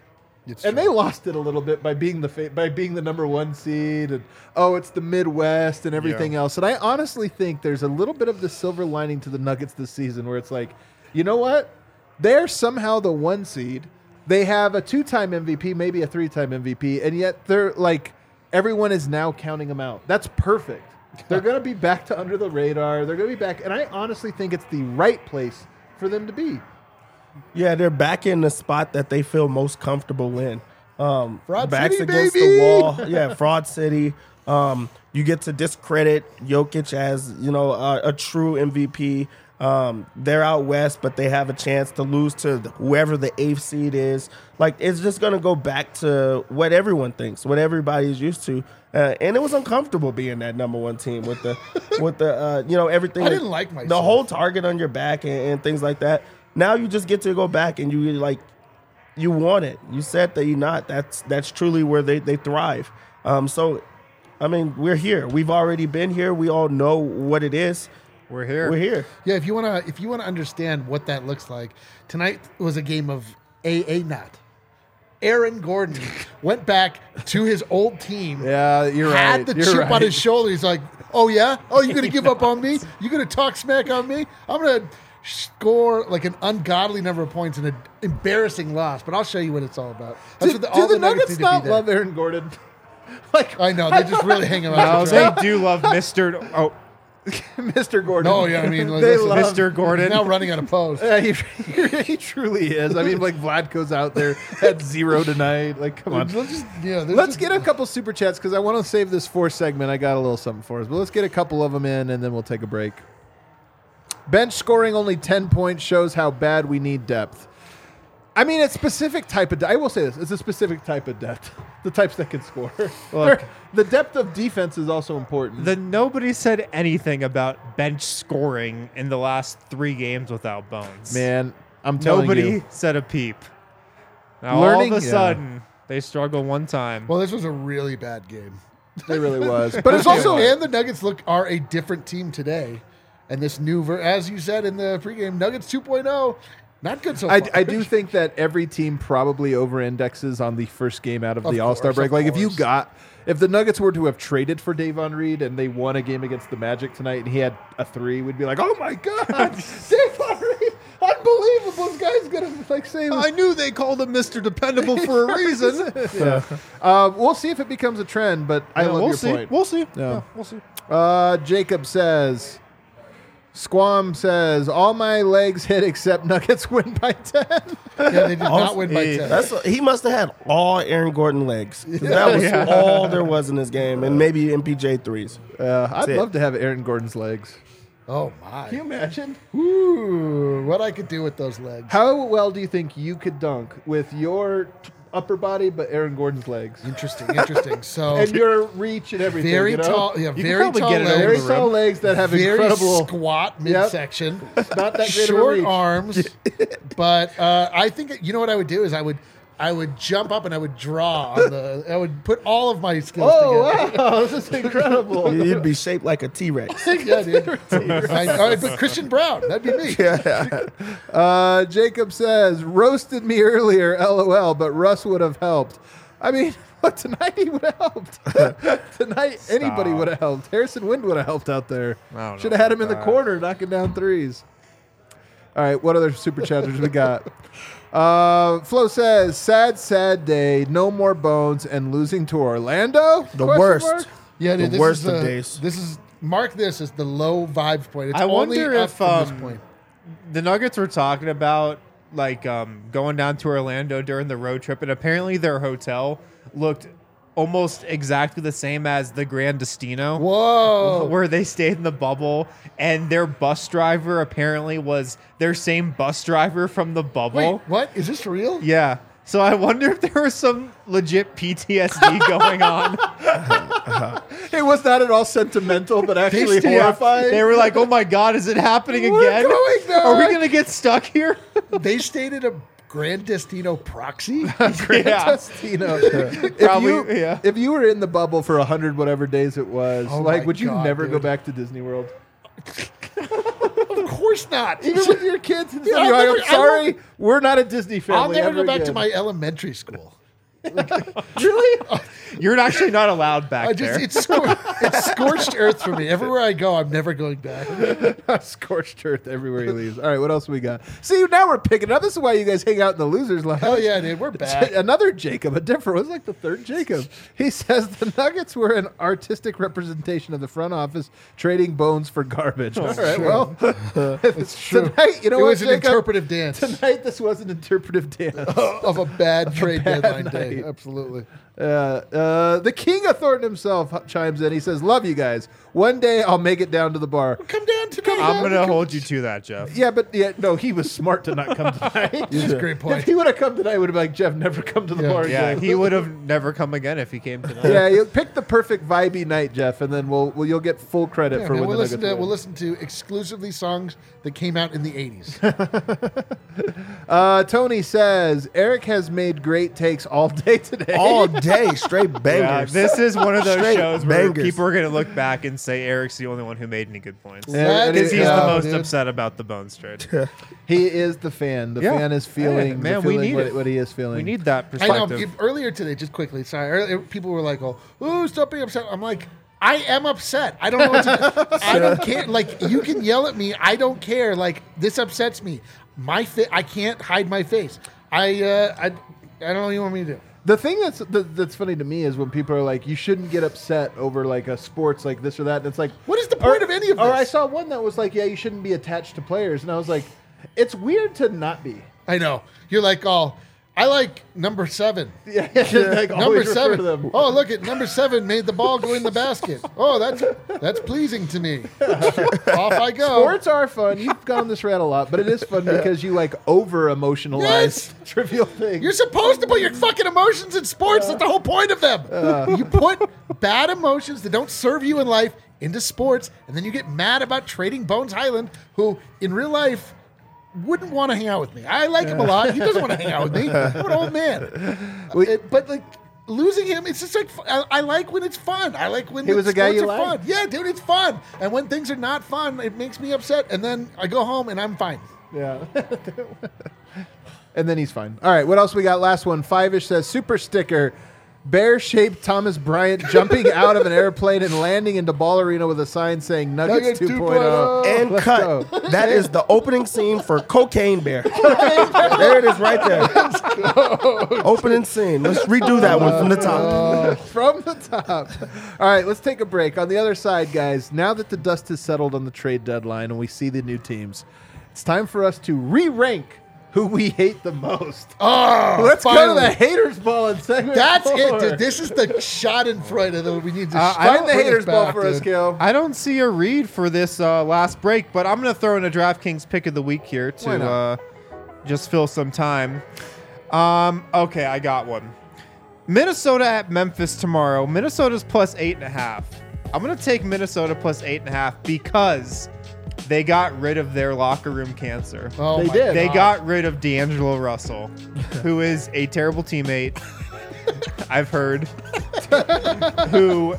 And they lost it a little bit by being by being the number 1 seed, and it's the Midwest and everything else. And I honestly think there's a little bit of the silver lining to the Nuggets this season, where it's like, you know what? They're somehow the 1 seed. They have a 2-time MVP, maybe a 3-time MVP, and yet they're like, everyone is now counting them out. That's perfect. They're going to be back to under the radar. They're going to be back, and I honestly think it's the right place for them to be. Yeah, they're back in the spot that they feel most comfortable in. Fraud backs City, against baby! the wall. Yeah, Fraud City. You get to discredit Jokic as, a true MVP. They're out west, but they have a chance to lose to whoever the 8th seed is. Like, it's just going to go back to what everyone thinks, what everybody's used to. And it was uncomfortable being that number 1 team with the everything. I didn't like myself. The whole target on your back and things like that. Now you just get to go back and you want it. You said that you're not. That's truly where they thrive. So, I mean, we're here. We've already been here. We all know what it is. We're here. We're here. Yeah, if you wanna understand what that looks like, tonight was a game of not. Aaron Gordon went back to his old team. Yeah, you're right. Had the chip on his shoulder. He's like, "Oh yeah, you're gonna give up on me? You're gonna talk smack on me? I'm gonna score like an ungodly number of points in an embarrassing loss." But I'll show you what it's all about. That's Do all the the Nuggets need to not be there. love Aaron Gordon? Like, I know they just really hang him out. No, to they dry. do love Mr. Mr. Gordon. No, yeah, I mean, like, they listen, love Mr. Gordon. He's now running out of post. Yeah, he truly is. I mean, like, Vlad goes out there at 0 tonight. Like, come on. Let's get a couple super chats because I want to save this 4th segment. I got a little something for us, but let's get a couple of them in and then we'll take a break. Bench scoring only 10 points shows how bad we need depth. I mean, it's specific type of. I will say this: it's a specific type of depth. The types that can score. Look. The depth of defense is also important. Nobody said anything about bench scoring in the last 3 games without Bones. Man, I'm telling Nobody you. said a peep. Now Learning- all of a yeah. sudden, they struggle one time. Well, this was a really bad game. It really was. But it's also, Yeah. and the Nuggets are a different team today. And this new, as you said in the pregame, Nuggets 2.0, not good so far. I do think that every team probably over-indexes on the first game out of the All-Star course, break. of Like, course. if the Nuggets were to have traded for Davon Reed and they won a game against the Magic tonight and he had a 3, we'd be like, oh my God, Davon Reed, unbelievable. This guy's going to, like, save us. I knew they called him Mr. Dependable for a reason. We'll see if it becomes a trend, but I love we'll your see. point. We'll see. Yeah. We'll see. Jacob says, Squam says, all my legs hit except Nuggets win by 10. Yeah, they did not win by 10. He must have had all Aaron Gordon legs. 'Cause that was all there was in this game, and maybe MPJ threes. I'd it. love to have Aaron Gordon's legs. Oh, my. Can you imagine? Ooh, what I could do with those legs. How well do you think you could dunk with your upper body but Aaron Gordon's legs? Interesting. So, And your reach and everything. very you know? tall, yeah, can very probably tall get it over Very legs. the tall legs that have Very incredible. squat midsection. Not that great of a Short reach. arms. But I think, you know what I would do is I would jump up and I would draw on I would put all of my skills together. Wow, this is incredible. You'd be shaped like a T-Rex. Yeah, dude. I'd put Christian Brown. That'd be me. Jacob says, roasted me earlier, LOL, but Russ would have helped. I mean, but tonight he would have helped. Tonight, anybody would have helped. Harrison Wind would have helped out there. I don't Should know have had him in about the that. corner knocking down threes. All right, what other super chatters we got? Flo says, sad day, no more Bones, and losing to Orlando? The Question worst. mark? Yeah, dude, The worst of days. This is mark this as the low vibes point. It's I only wonder up if from this point. the Nuggets were talking about going down to Orlando during the road trip, and apparently their hotel looked almost exactly the same as the Grand Destino. Whoa. Where they stayed in the bubble, and their bus driver apparently was their same bus driver from the bubble. Wait, what? Is this real? Yeah. So I wonder if there was some legit PTSD going on. It was not at all sentimental, but actually stayed- horrifying. They were like, "Oh my God, is it happening We're again? going there." Are we gonna get stuck here?" They stayed at a Grand Destino proxy? Yeah. Destino. Probably, yeah. If you were in the bubble for 100 whatever days it was, Oh like, my would you God, never go dude. back to Disney World? Of course not. Even with your kids and Yeah, stuff, I'll you're like, never- I'm sorry, we're not a Disney family. I'll never ever go back to again." my elementary school. Really? You're actually not allowed back there. It's scorched earth for me. Everywhere I go, I'm never going back. Scorched earth everywhere he leaves. All right, what else we got? See, now we're picking up. This is why you guys hang out in the losers lounge. Hell yeah, dude. We're back. Another Jacob, a different. It was like the third Jacob. He says the Nuggets were an artistic representation of the front office trading bones for garbage. All right, true. well, It's true. tonight, you know it what, was an Jacob? interpretive dance Tonight, this was an interpretive dance. of a bad trade deadline day. night. Absolutely. The king of Thornton himself chimes in. He says, "Love you guys. One day I'll make it down to the bar." Come down tonight. I'm going to hold you to that, Jeff. Yeah, but no, he was smart to not come tonight. That's a great If point. he would have come tonight, would have been like, Jeff, never come to the Yeah. bar Yeah, again. he would have never come again if he came tonight. Yeah, you pick the perfect vibey night, Jeff, and then you'll get full credit Yeah, for man, when we'll the listen Nuggets to win. we'll listen to exclusively songs that came out in the 80s. Tony says Eric has made great takes all day today. All day, straight Yeah, bangers. this is one of those Straight shows where bangers. people are going to look back and say Eric's the only one who made any good points. Yeah, Because he's yeah, the most dude. upset about the Bones trade. He is the fan. The Yeah. fan is feeling, Hey, man, we feeling need what, it. what he is feeling. We need that I know. perspective. Earlier today, just quickly, sorry. Earlier, people were like, "Oh, stop being upset." I'm like, I am upset. I don't know what to do. I don't care. Like, you can yell at me. I don't care. Like, this upsets me. I can't hide my face. I don't know what you want me to do. The thing that's funny to me is when people are like, you shouldn't get upset over like a sports like this or that. And it's like, What is the point of any of this? Or I saw one that was like, yeah, you shouldn't be attached to players, and I was like, it's weird to not be. I know. You're like, oh, I like number 7. Yeah, just like Number always refer 7. to them. Oh, look at number 7 made the ball go in the basket. Oh, that's pleasing to me. Off I go. Sports are fun. You've gone on this rant a lot, but it is fun because you like over emotionalize Yes. trivial things. You're supposed to put your fucking emotions in sports. That's the whole point of them. You put bad emotions that don't serve you in life into sports, and then you get mad about trading Bones Highland, who in real life wouldn't want to hang out with me. I like him a lot. He doesn't want to hang out with me. I'm an old man. But like losing him, it's just like I like when it's fun. I like when He was a guy sports you are liked. fun. Yeah, dude, it's fun. And when things are not fun, it makes me upset. And then I go home and I'm fine. Yeah. And then he's fine. All right, what else we got? Last one. Five-ish says, super sticker, bear-shaped Thomas Bryant jumping out of an airplane and landing into Ball Arena with a sign saying Nuggets Nuggets 2.0. And Let's cut. go. That is the opening scene for Cocaine Bear. There it is right there. Opening scene. Let's redo that one from the top. From the top. All right, let's take a break. On the other side, guys, now that the dust has settled on the trade deadline and we see the new teams, it's time for us to re-rank who we hate the most. Oh, Let's go finally. to the haters ball in segment That's 4. it, dude. This is the Schadenfreude that we need to Find the bring haters ball back, for us, dude. Kale. I don't see a read for this last break, but I'm going to throw in a DraftKings pick of the week here Why not? to just fill some time. Okay, I got one. Minnesota at Memphis tomorrow. Minnesota's plus 8.5. I'm going to take Minnesota plus 8.5 because they got rid of their locker room cancer. Oh They my did. They God. got rid of D'Angelo Russell, who is a terrible teammate. I've heard. who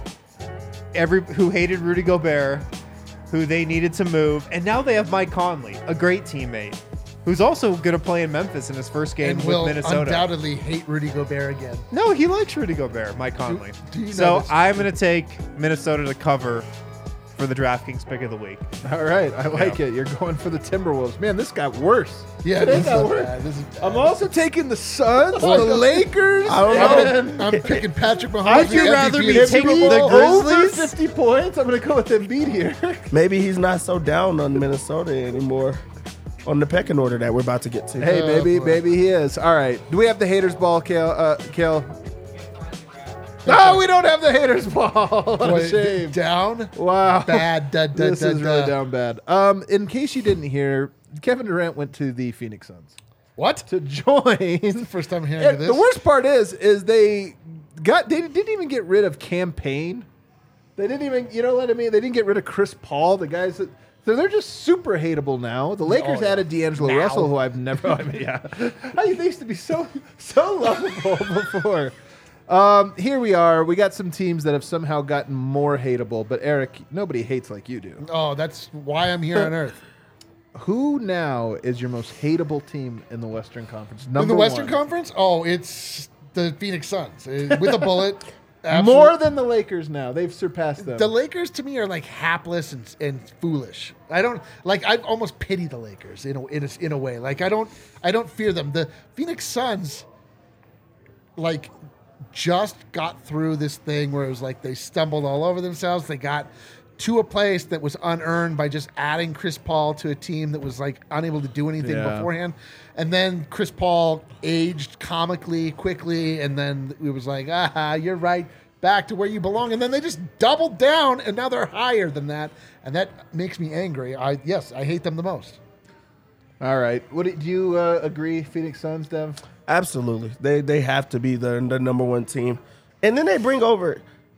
hated Rudy Gobert, who they needed to move, and now they have Mike Conley, a great teammate, who's also going to play in Memphis in his first game and with will Minnesota. undoubtedly hate Rudy Gobert again. No, he likes Rudy Gobert, Mike Conley. do you know So this? I'm going to take Minnesota to cover for the DraftKings pick of the week. All right, I like it. You're going for the Timberwolves. Man, this got worse. Yeah, It this is got worse. bad. This is bad. I'm also taking the Suns, the Lakers. I don't know. I'm picking Patrick Mahomes. I'd the rather MVP be of taking Super the Bowl. Grizzlies? Over 50 points. I'm going to go with Embiid here. Maybe he's not so down on Minnesota anymore on the pecking order that we're about to get to. Hey, Oh, maybe boy. he is. All right. Do we have the haters ball, Kale? No, we don't have the haters ball. What a Boy, shame. down. Wow. Bad. This is really down bad. In case you didn't hear, Kevin Durant went to the Phoenix Suns What? to join. First time hearing And of this. the worst part is they didn't even get rid of Campaign. They didn't even, you know what I mean? They didn't get rid of Chris Paul, the guys that. So they're just super hateable now. The Lakers yeah. added D'Angelo Now. Russell, who I've never. I mean, yeah, they used to be so lovable before. Here we are. We got some teams that have somehow gotten more hateable. But Eric, nobody hates like you do. Oh, that's why I'm here on Earth. Who now is your most hateable team in the Western Conference? In the Number Western one. Conference? Oh, it's The Phoenix Suns with a bullet. More than the Lakers now. They've surpassed them. The Lakers to me are like hapless and foolish. I don't like. I almost pity the Lakers in a way. Like I don't fear them. The Phoenix Suns, like, just got through this thing where it was like they stumbled all over themselves. They got to a place that was unearned by just adding Chris Paul to a team that was like unable to do anything beforehand. And then Chris Paul aged comically quickly, and then it was like, you're right, back to where you belong. And then they just doubled down, and now they're higher than that, and that makes me angry. I hate them the most. All right. Do you agree, Phoenix Suns, Dev? Absolutely. They have to be the number one team. And then they bring over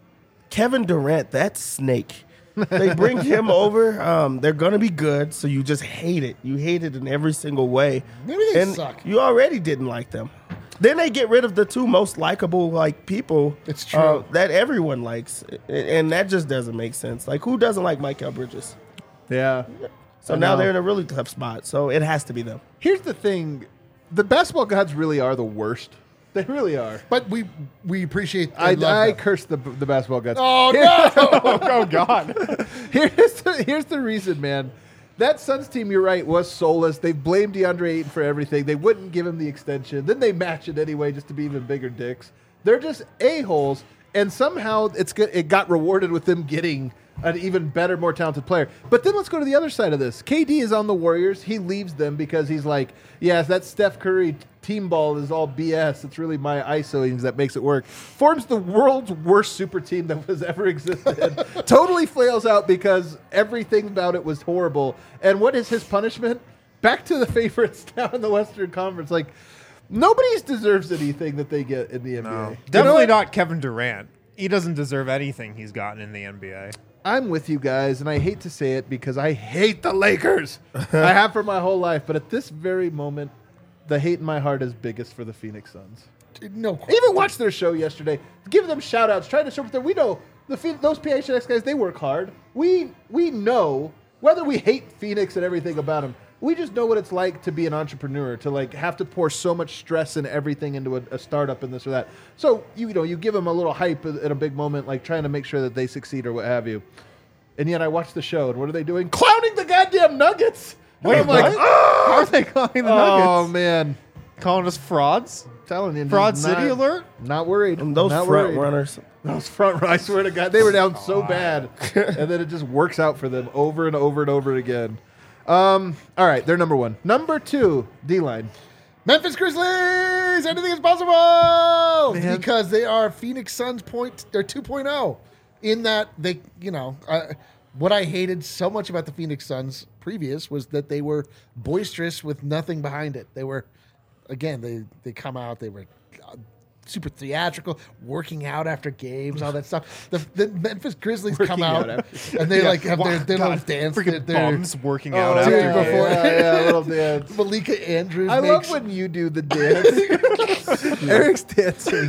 Kevin Durant, that snake. They bring him over. They're going to be good, so you just hate it. You hate it in every single way. Maybe they suck. You already didn't like them. Then they get rid of the two most likable people. It's true. That everyone likes, and that just doesn't make sense. Like, who doesn't like Mikal Bridges? Yeah. So now they're in a really tough spot. So it has to be them. Here's the thing. The basketball gods really are the worst. They really are. But we appreciate. I curse the basketball gods. Oh no! Oh God! Here's the reason, man. That Suns team, you're right, was soulless. They blamed DeAndre Ayton for everything. They wouldn't give him the extension. Then they match it anyway, just to be even bigger dicks. They're just a-holes, and somehow it got rewarded with them getting an even better, more talented player. But then let's go to the other side of this. KD is on the Warriors. He leaves them because he's like, yes, that Steph Curry team ball is all BS. It's really my ISOings that makes it work. Forms the world's worst super team that has ever existed. Totally flails out because everything about it was horrible. And what is his punishment? Back to the favorites now in the Western Conference. Like, nobody deserves anything that they get in the NBA. No. Definitely not Kevin Durant. He doesn't deserve anything he's gotten in the NBA. I'm with you guys, and I hate to say it because I hate the Lakers. I have for my whole life, but at this very moment, the hate in my heart is biggest for the Phoenix Suns. No I question. even watched their show yesterday. Give them shout-outs. Trying to show them. We know those PHNX guys, they work hard. We know, whether we hate Phoenix and everything about them, we just know what it's like to be an entrepreneur, to like have to pour so much stress and everything into a startup and this or that. So you give them a little hype at a big moment, like trying to make sure that they succeed or what have you. And yet I watched the show, and what are they doing? Clowning the goddamn Nuggets. Wait, I'm like, oh! How are they calling the Nuggets? Oh man, Calling us frauds? telling you, Fraud not- City alert? Not worried. And those Not front worried. runners. Those front runners, I swear to God, they were down so bad, and then it just works out for them over and over and over again. All right, they're number one. Number two, D-line. Memphis Grizzlies. Anything is possible Man. because they are Phoenix Suns they're 2.0 in that they, what I hated so much about the Phoenix Suns previous was that they were boisterous with nothing behind it. They were, again, they come out, they were super theatrical, working out after games, all that stuff. The Memphis Grizzlies come Working out out and they like have their little dance. Freaking their- bums working out dude, after before- games. yeah, a little dance. Malika Andrews I makes, love when you do the dance. Eric's dancing.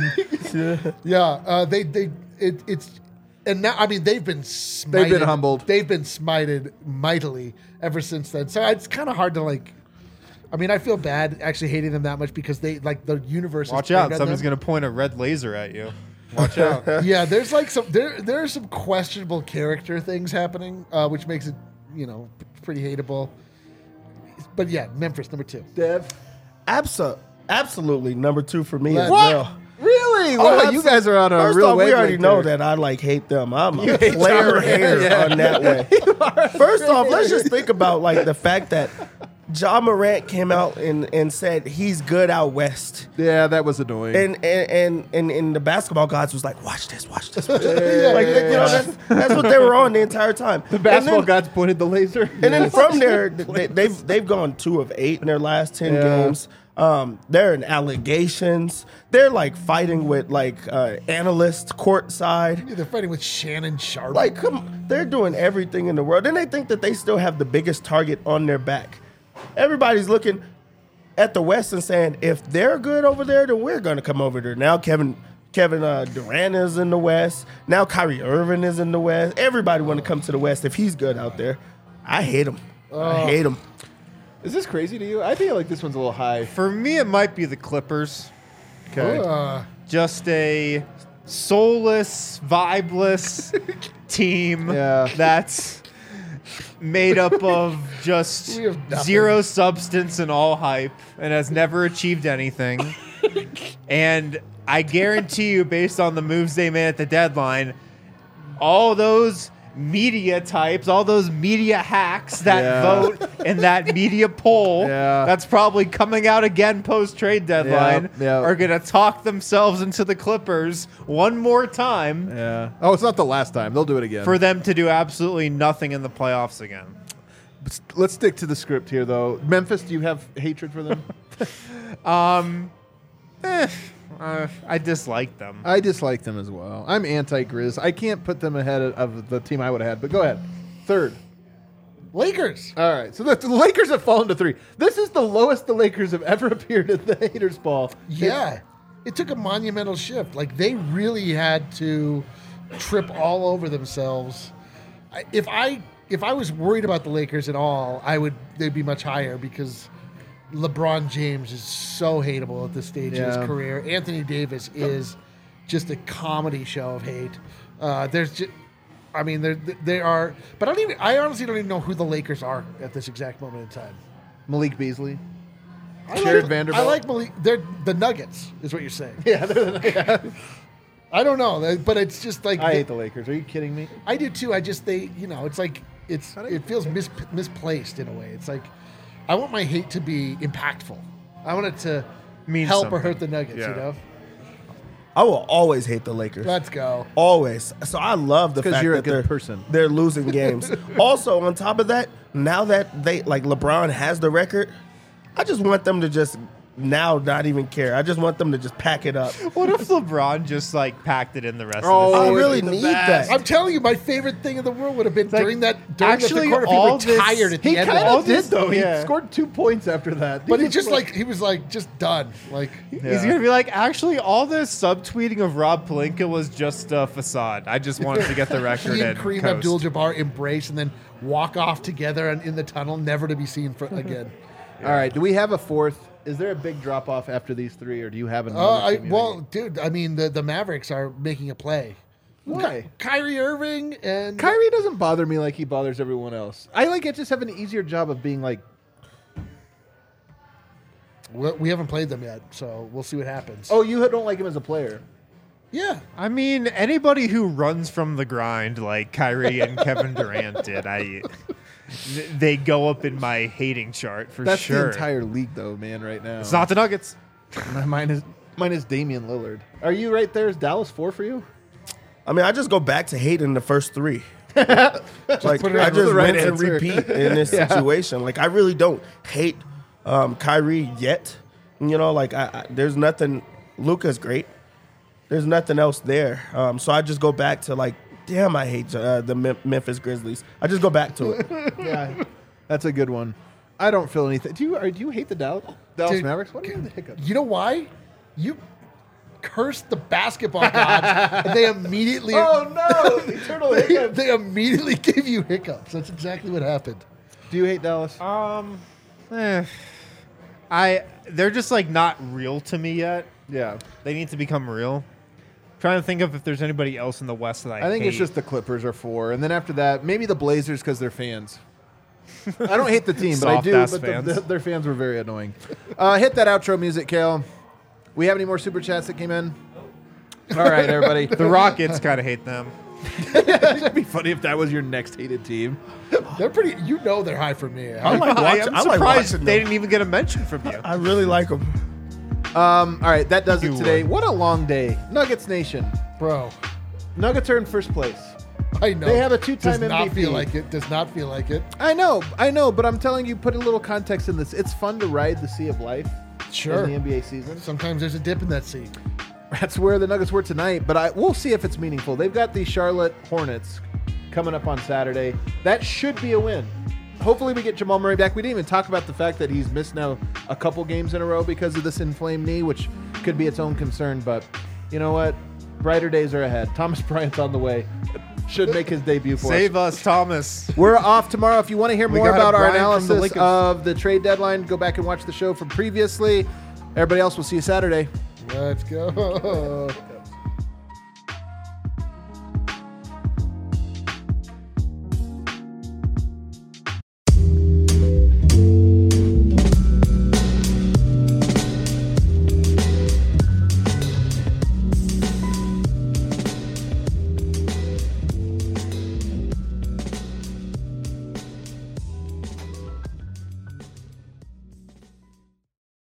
it's and now I mean they've been smited, They've been humbled. They've been smited mightily ever since then. So it's kind of hard to like. I mean, I feel bad actually hating them that much because they like the universe. Watch is out. bigger than Somebody's them. going to point a red laser at you. Watch out. Yeah, there's like there are some questionable character things happening, which makes it pretty hateable. But yeah, Memphis number 2. Dev. Absolutely number 2 for me as What? well. Really? Oh, Wow, you guys are on a First real off, we wavelength already know there. that I hate them. I'm a hate player Ja hater Morant, on that way. First off, let's just think about like the fact that Ja Morant came out and said he's good out west. Yeah, that was annoying. And the basketball gods was like, watch this. Like, that's what they were on the entire time. the basketball gods pointed the laser. And then from there, they've gone 2 of 8 in their last 10 games. They're in allegations. They're like fighting with like analysts courtside. They're fighting with Shannon Sharp. Like, they're doing everything in the world. And they think that they still have the biggest target on their back. Everybody's looking at the West and saying, if they're good over there, then we're going to come over there. Now Kevin Durant is in the West. Now Kyrie Irving is in the West. Everybody want to come to the West if he's good out there. I hate him. I hate him. Is this crazy to you? I feel like this one's a little high. For me, it might be the Clippers. Okay. just a soulless, vibeless team Yeah. that's made up of just We have nothing. zero substance and all hype and has never achieved anything. And I guarantee you, based on the moves they made at the deadline, all those media types, all those media hacks that Yeah. vote in that media poll Yeah. that's probably coming out again post-trade deadline Yeah. are going to talk themselves into the Clippers one more time Yeah. Oh, it's not the last time. They'll do it again. for them to do absolutely nothing in the playoffs again. Let's stick to the script here, though. Memphis, do you have hatred for them? I dislike them. I dislike them as well. I'm anti-Grizz. I can't put them ahead of the team I would have had, but go ahead. Third. Lakers. All right. So the Lakers have fallen to 3. This is the lowest the Lakers have ever appeared at the Haters Ball. Yeah. It took a monumental shift. Like, they really had to trip all over themselves. If I was worried about the Lakers at all, they'd be much higher because LeBron James is so hateable at this stage of Yeah. his career. Anthony Davis is just a comedy show of hate. They are, but I honestly don't even know who the Lakers are at this exact moment in time. Malik Beasley. I Jared like, Vanderbilt. I like Malik. They're the Nuggets, is what you're saying. Yeah, they're I don't know, but it's just like I hate the Lakers. Are you kidding me? I do too. It's like it feels misplaced in a way. It's like I want my hate to be impactful. I want it to Mean help or something. hurt the Nuggets. Yeah. You know. I will always hate the Lakers. Let's go. Always. So I love the 'Cause fact you're a that good they're person. They're losing games. Also, on top of that, now that LeBron has the record, I just want them to just now not even care. I just want them to just pack it up. What if LeBron just packed it in the rest Oh, of the I season? really the need best. that. I'm telling you, my favorite thing in the world would have been like, during the actually, third quarter. If all he this- retired at the He end. kind all of did, this- though. yeah. He scored 2 points after that. But he was just done. Like He's going to be like, actually, all this subtweeting of Rob Pelinka was just a facade. I just wanted to get the record he in. and Kareem coast. Abdul-Jabbar embrace and then walk off together in the tunnel, never to be seen again. All right. Do we have a fourth? Is there a big drop off after these 3, or do you have another? team you hate? Dude, I mean, the Mavericks are making a play. Why? Kyrie Irving and Kyrie doesn't bother me like he bothers everyone else. I just have an easier job of being like, we haven't played them yet, so we'll see what happens. oh, you don't like him as a player. yeah. I mean, anybody who runs from the grind like Kyrie and Kevin Durant did, they go up in my hating chart for That's sure. the entire league, though, man. Right now, It's not the Nuggets. mine is Damian Lillard. Are you right there? Is Dallas 4 for you? I mean, I just go back to hating the first 3. Like put it I on just the right rinse and answer. repeat in this situation. Like I really don't hate Kyrie yet. You know, like there's nothing. Luka's great. There's nothing else there. So I just go back to like, damn, I hate the Memphis Grizzlies. I just go back to it. Yeah, that's a good one. I don't feel anything. Do you hate the Dallas Dude, Mavericks? What are the hiccups? You know why? You cursed the basketball gods, and they immediately Oh no, eternal hiccups. they immediately give you hiccups. That's exactly what happened. Do you hate Dallas? They're just like not real to me yet. Yeah, They need to become real. Trying to think of if there's anybody else in the West that I think it's hate. just the Clippers are 4, and then after that, maybe the Blazers because they're fans. I don't hate the team, but I do. Soft-ass But fans. their fans were very annoying. Hit that outro music, Kale. We have any more super chats that came in? All right, everybody. the Rockets kind of hate them. It'd be funny if that was your next hated team. They're pretty. You know, they're high for me. I like I watching. am I like surprised watching they them. didn't even get a mention from you. I really like them. All right, that does it You today. would. What a long day. Nuggets Nation. Bro, Nuggets are in first place. I know. They have a two-time Does not MVP. feel like it. Does not feel like it. I know, but I'm telling you, put a little context in this. It's fun to ride the sea of life Sure. in the NBA season. Sometimes there's a dip in that sea. That's where the Nuggets were tonight, but we'll see if it's meaningful. They've got the Charlotte Hornets coming up on Saturday. That should be a win. Hopefully we get Jamal Murray back. We didn't even talk about the fact that he's missed now a couple games in a row because of this inflamed knee, which could be its own concern, but you know what? Brighter days are ahead. Thomas Bryant's on the way. Should make his debut for us. Save us, Thomas. We're off tomorrow. If you want to hear We more got about our Brian from the analysis Lakers. of the trade deadline, go back and watch the show from previously. Everybody else, we'll see you Saturday. Let's go.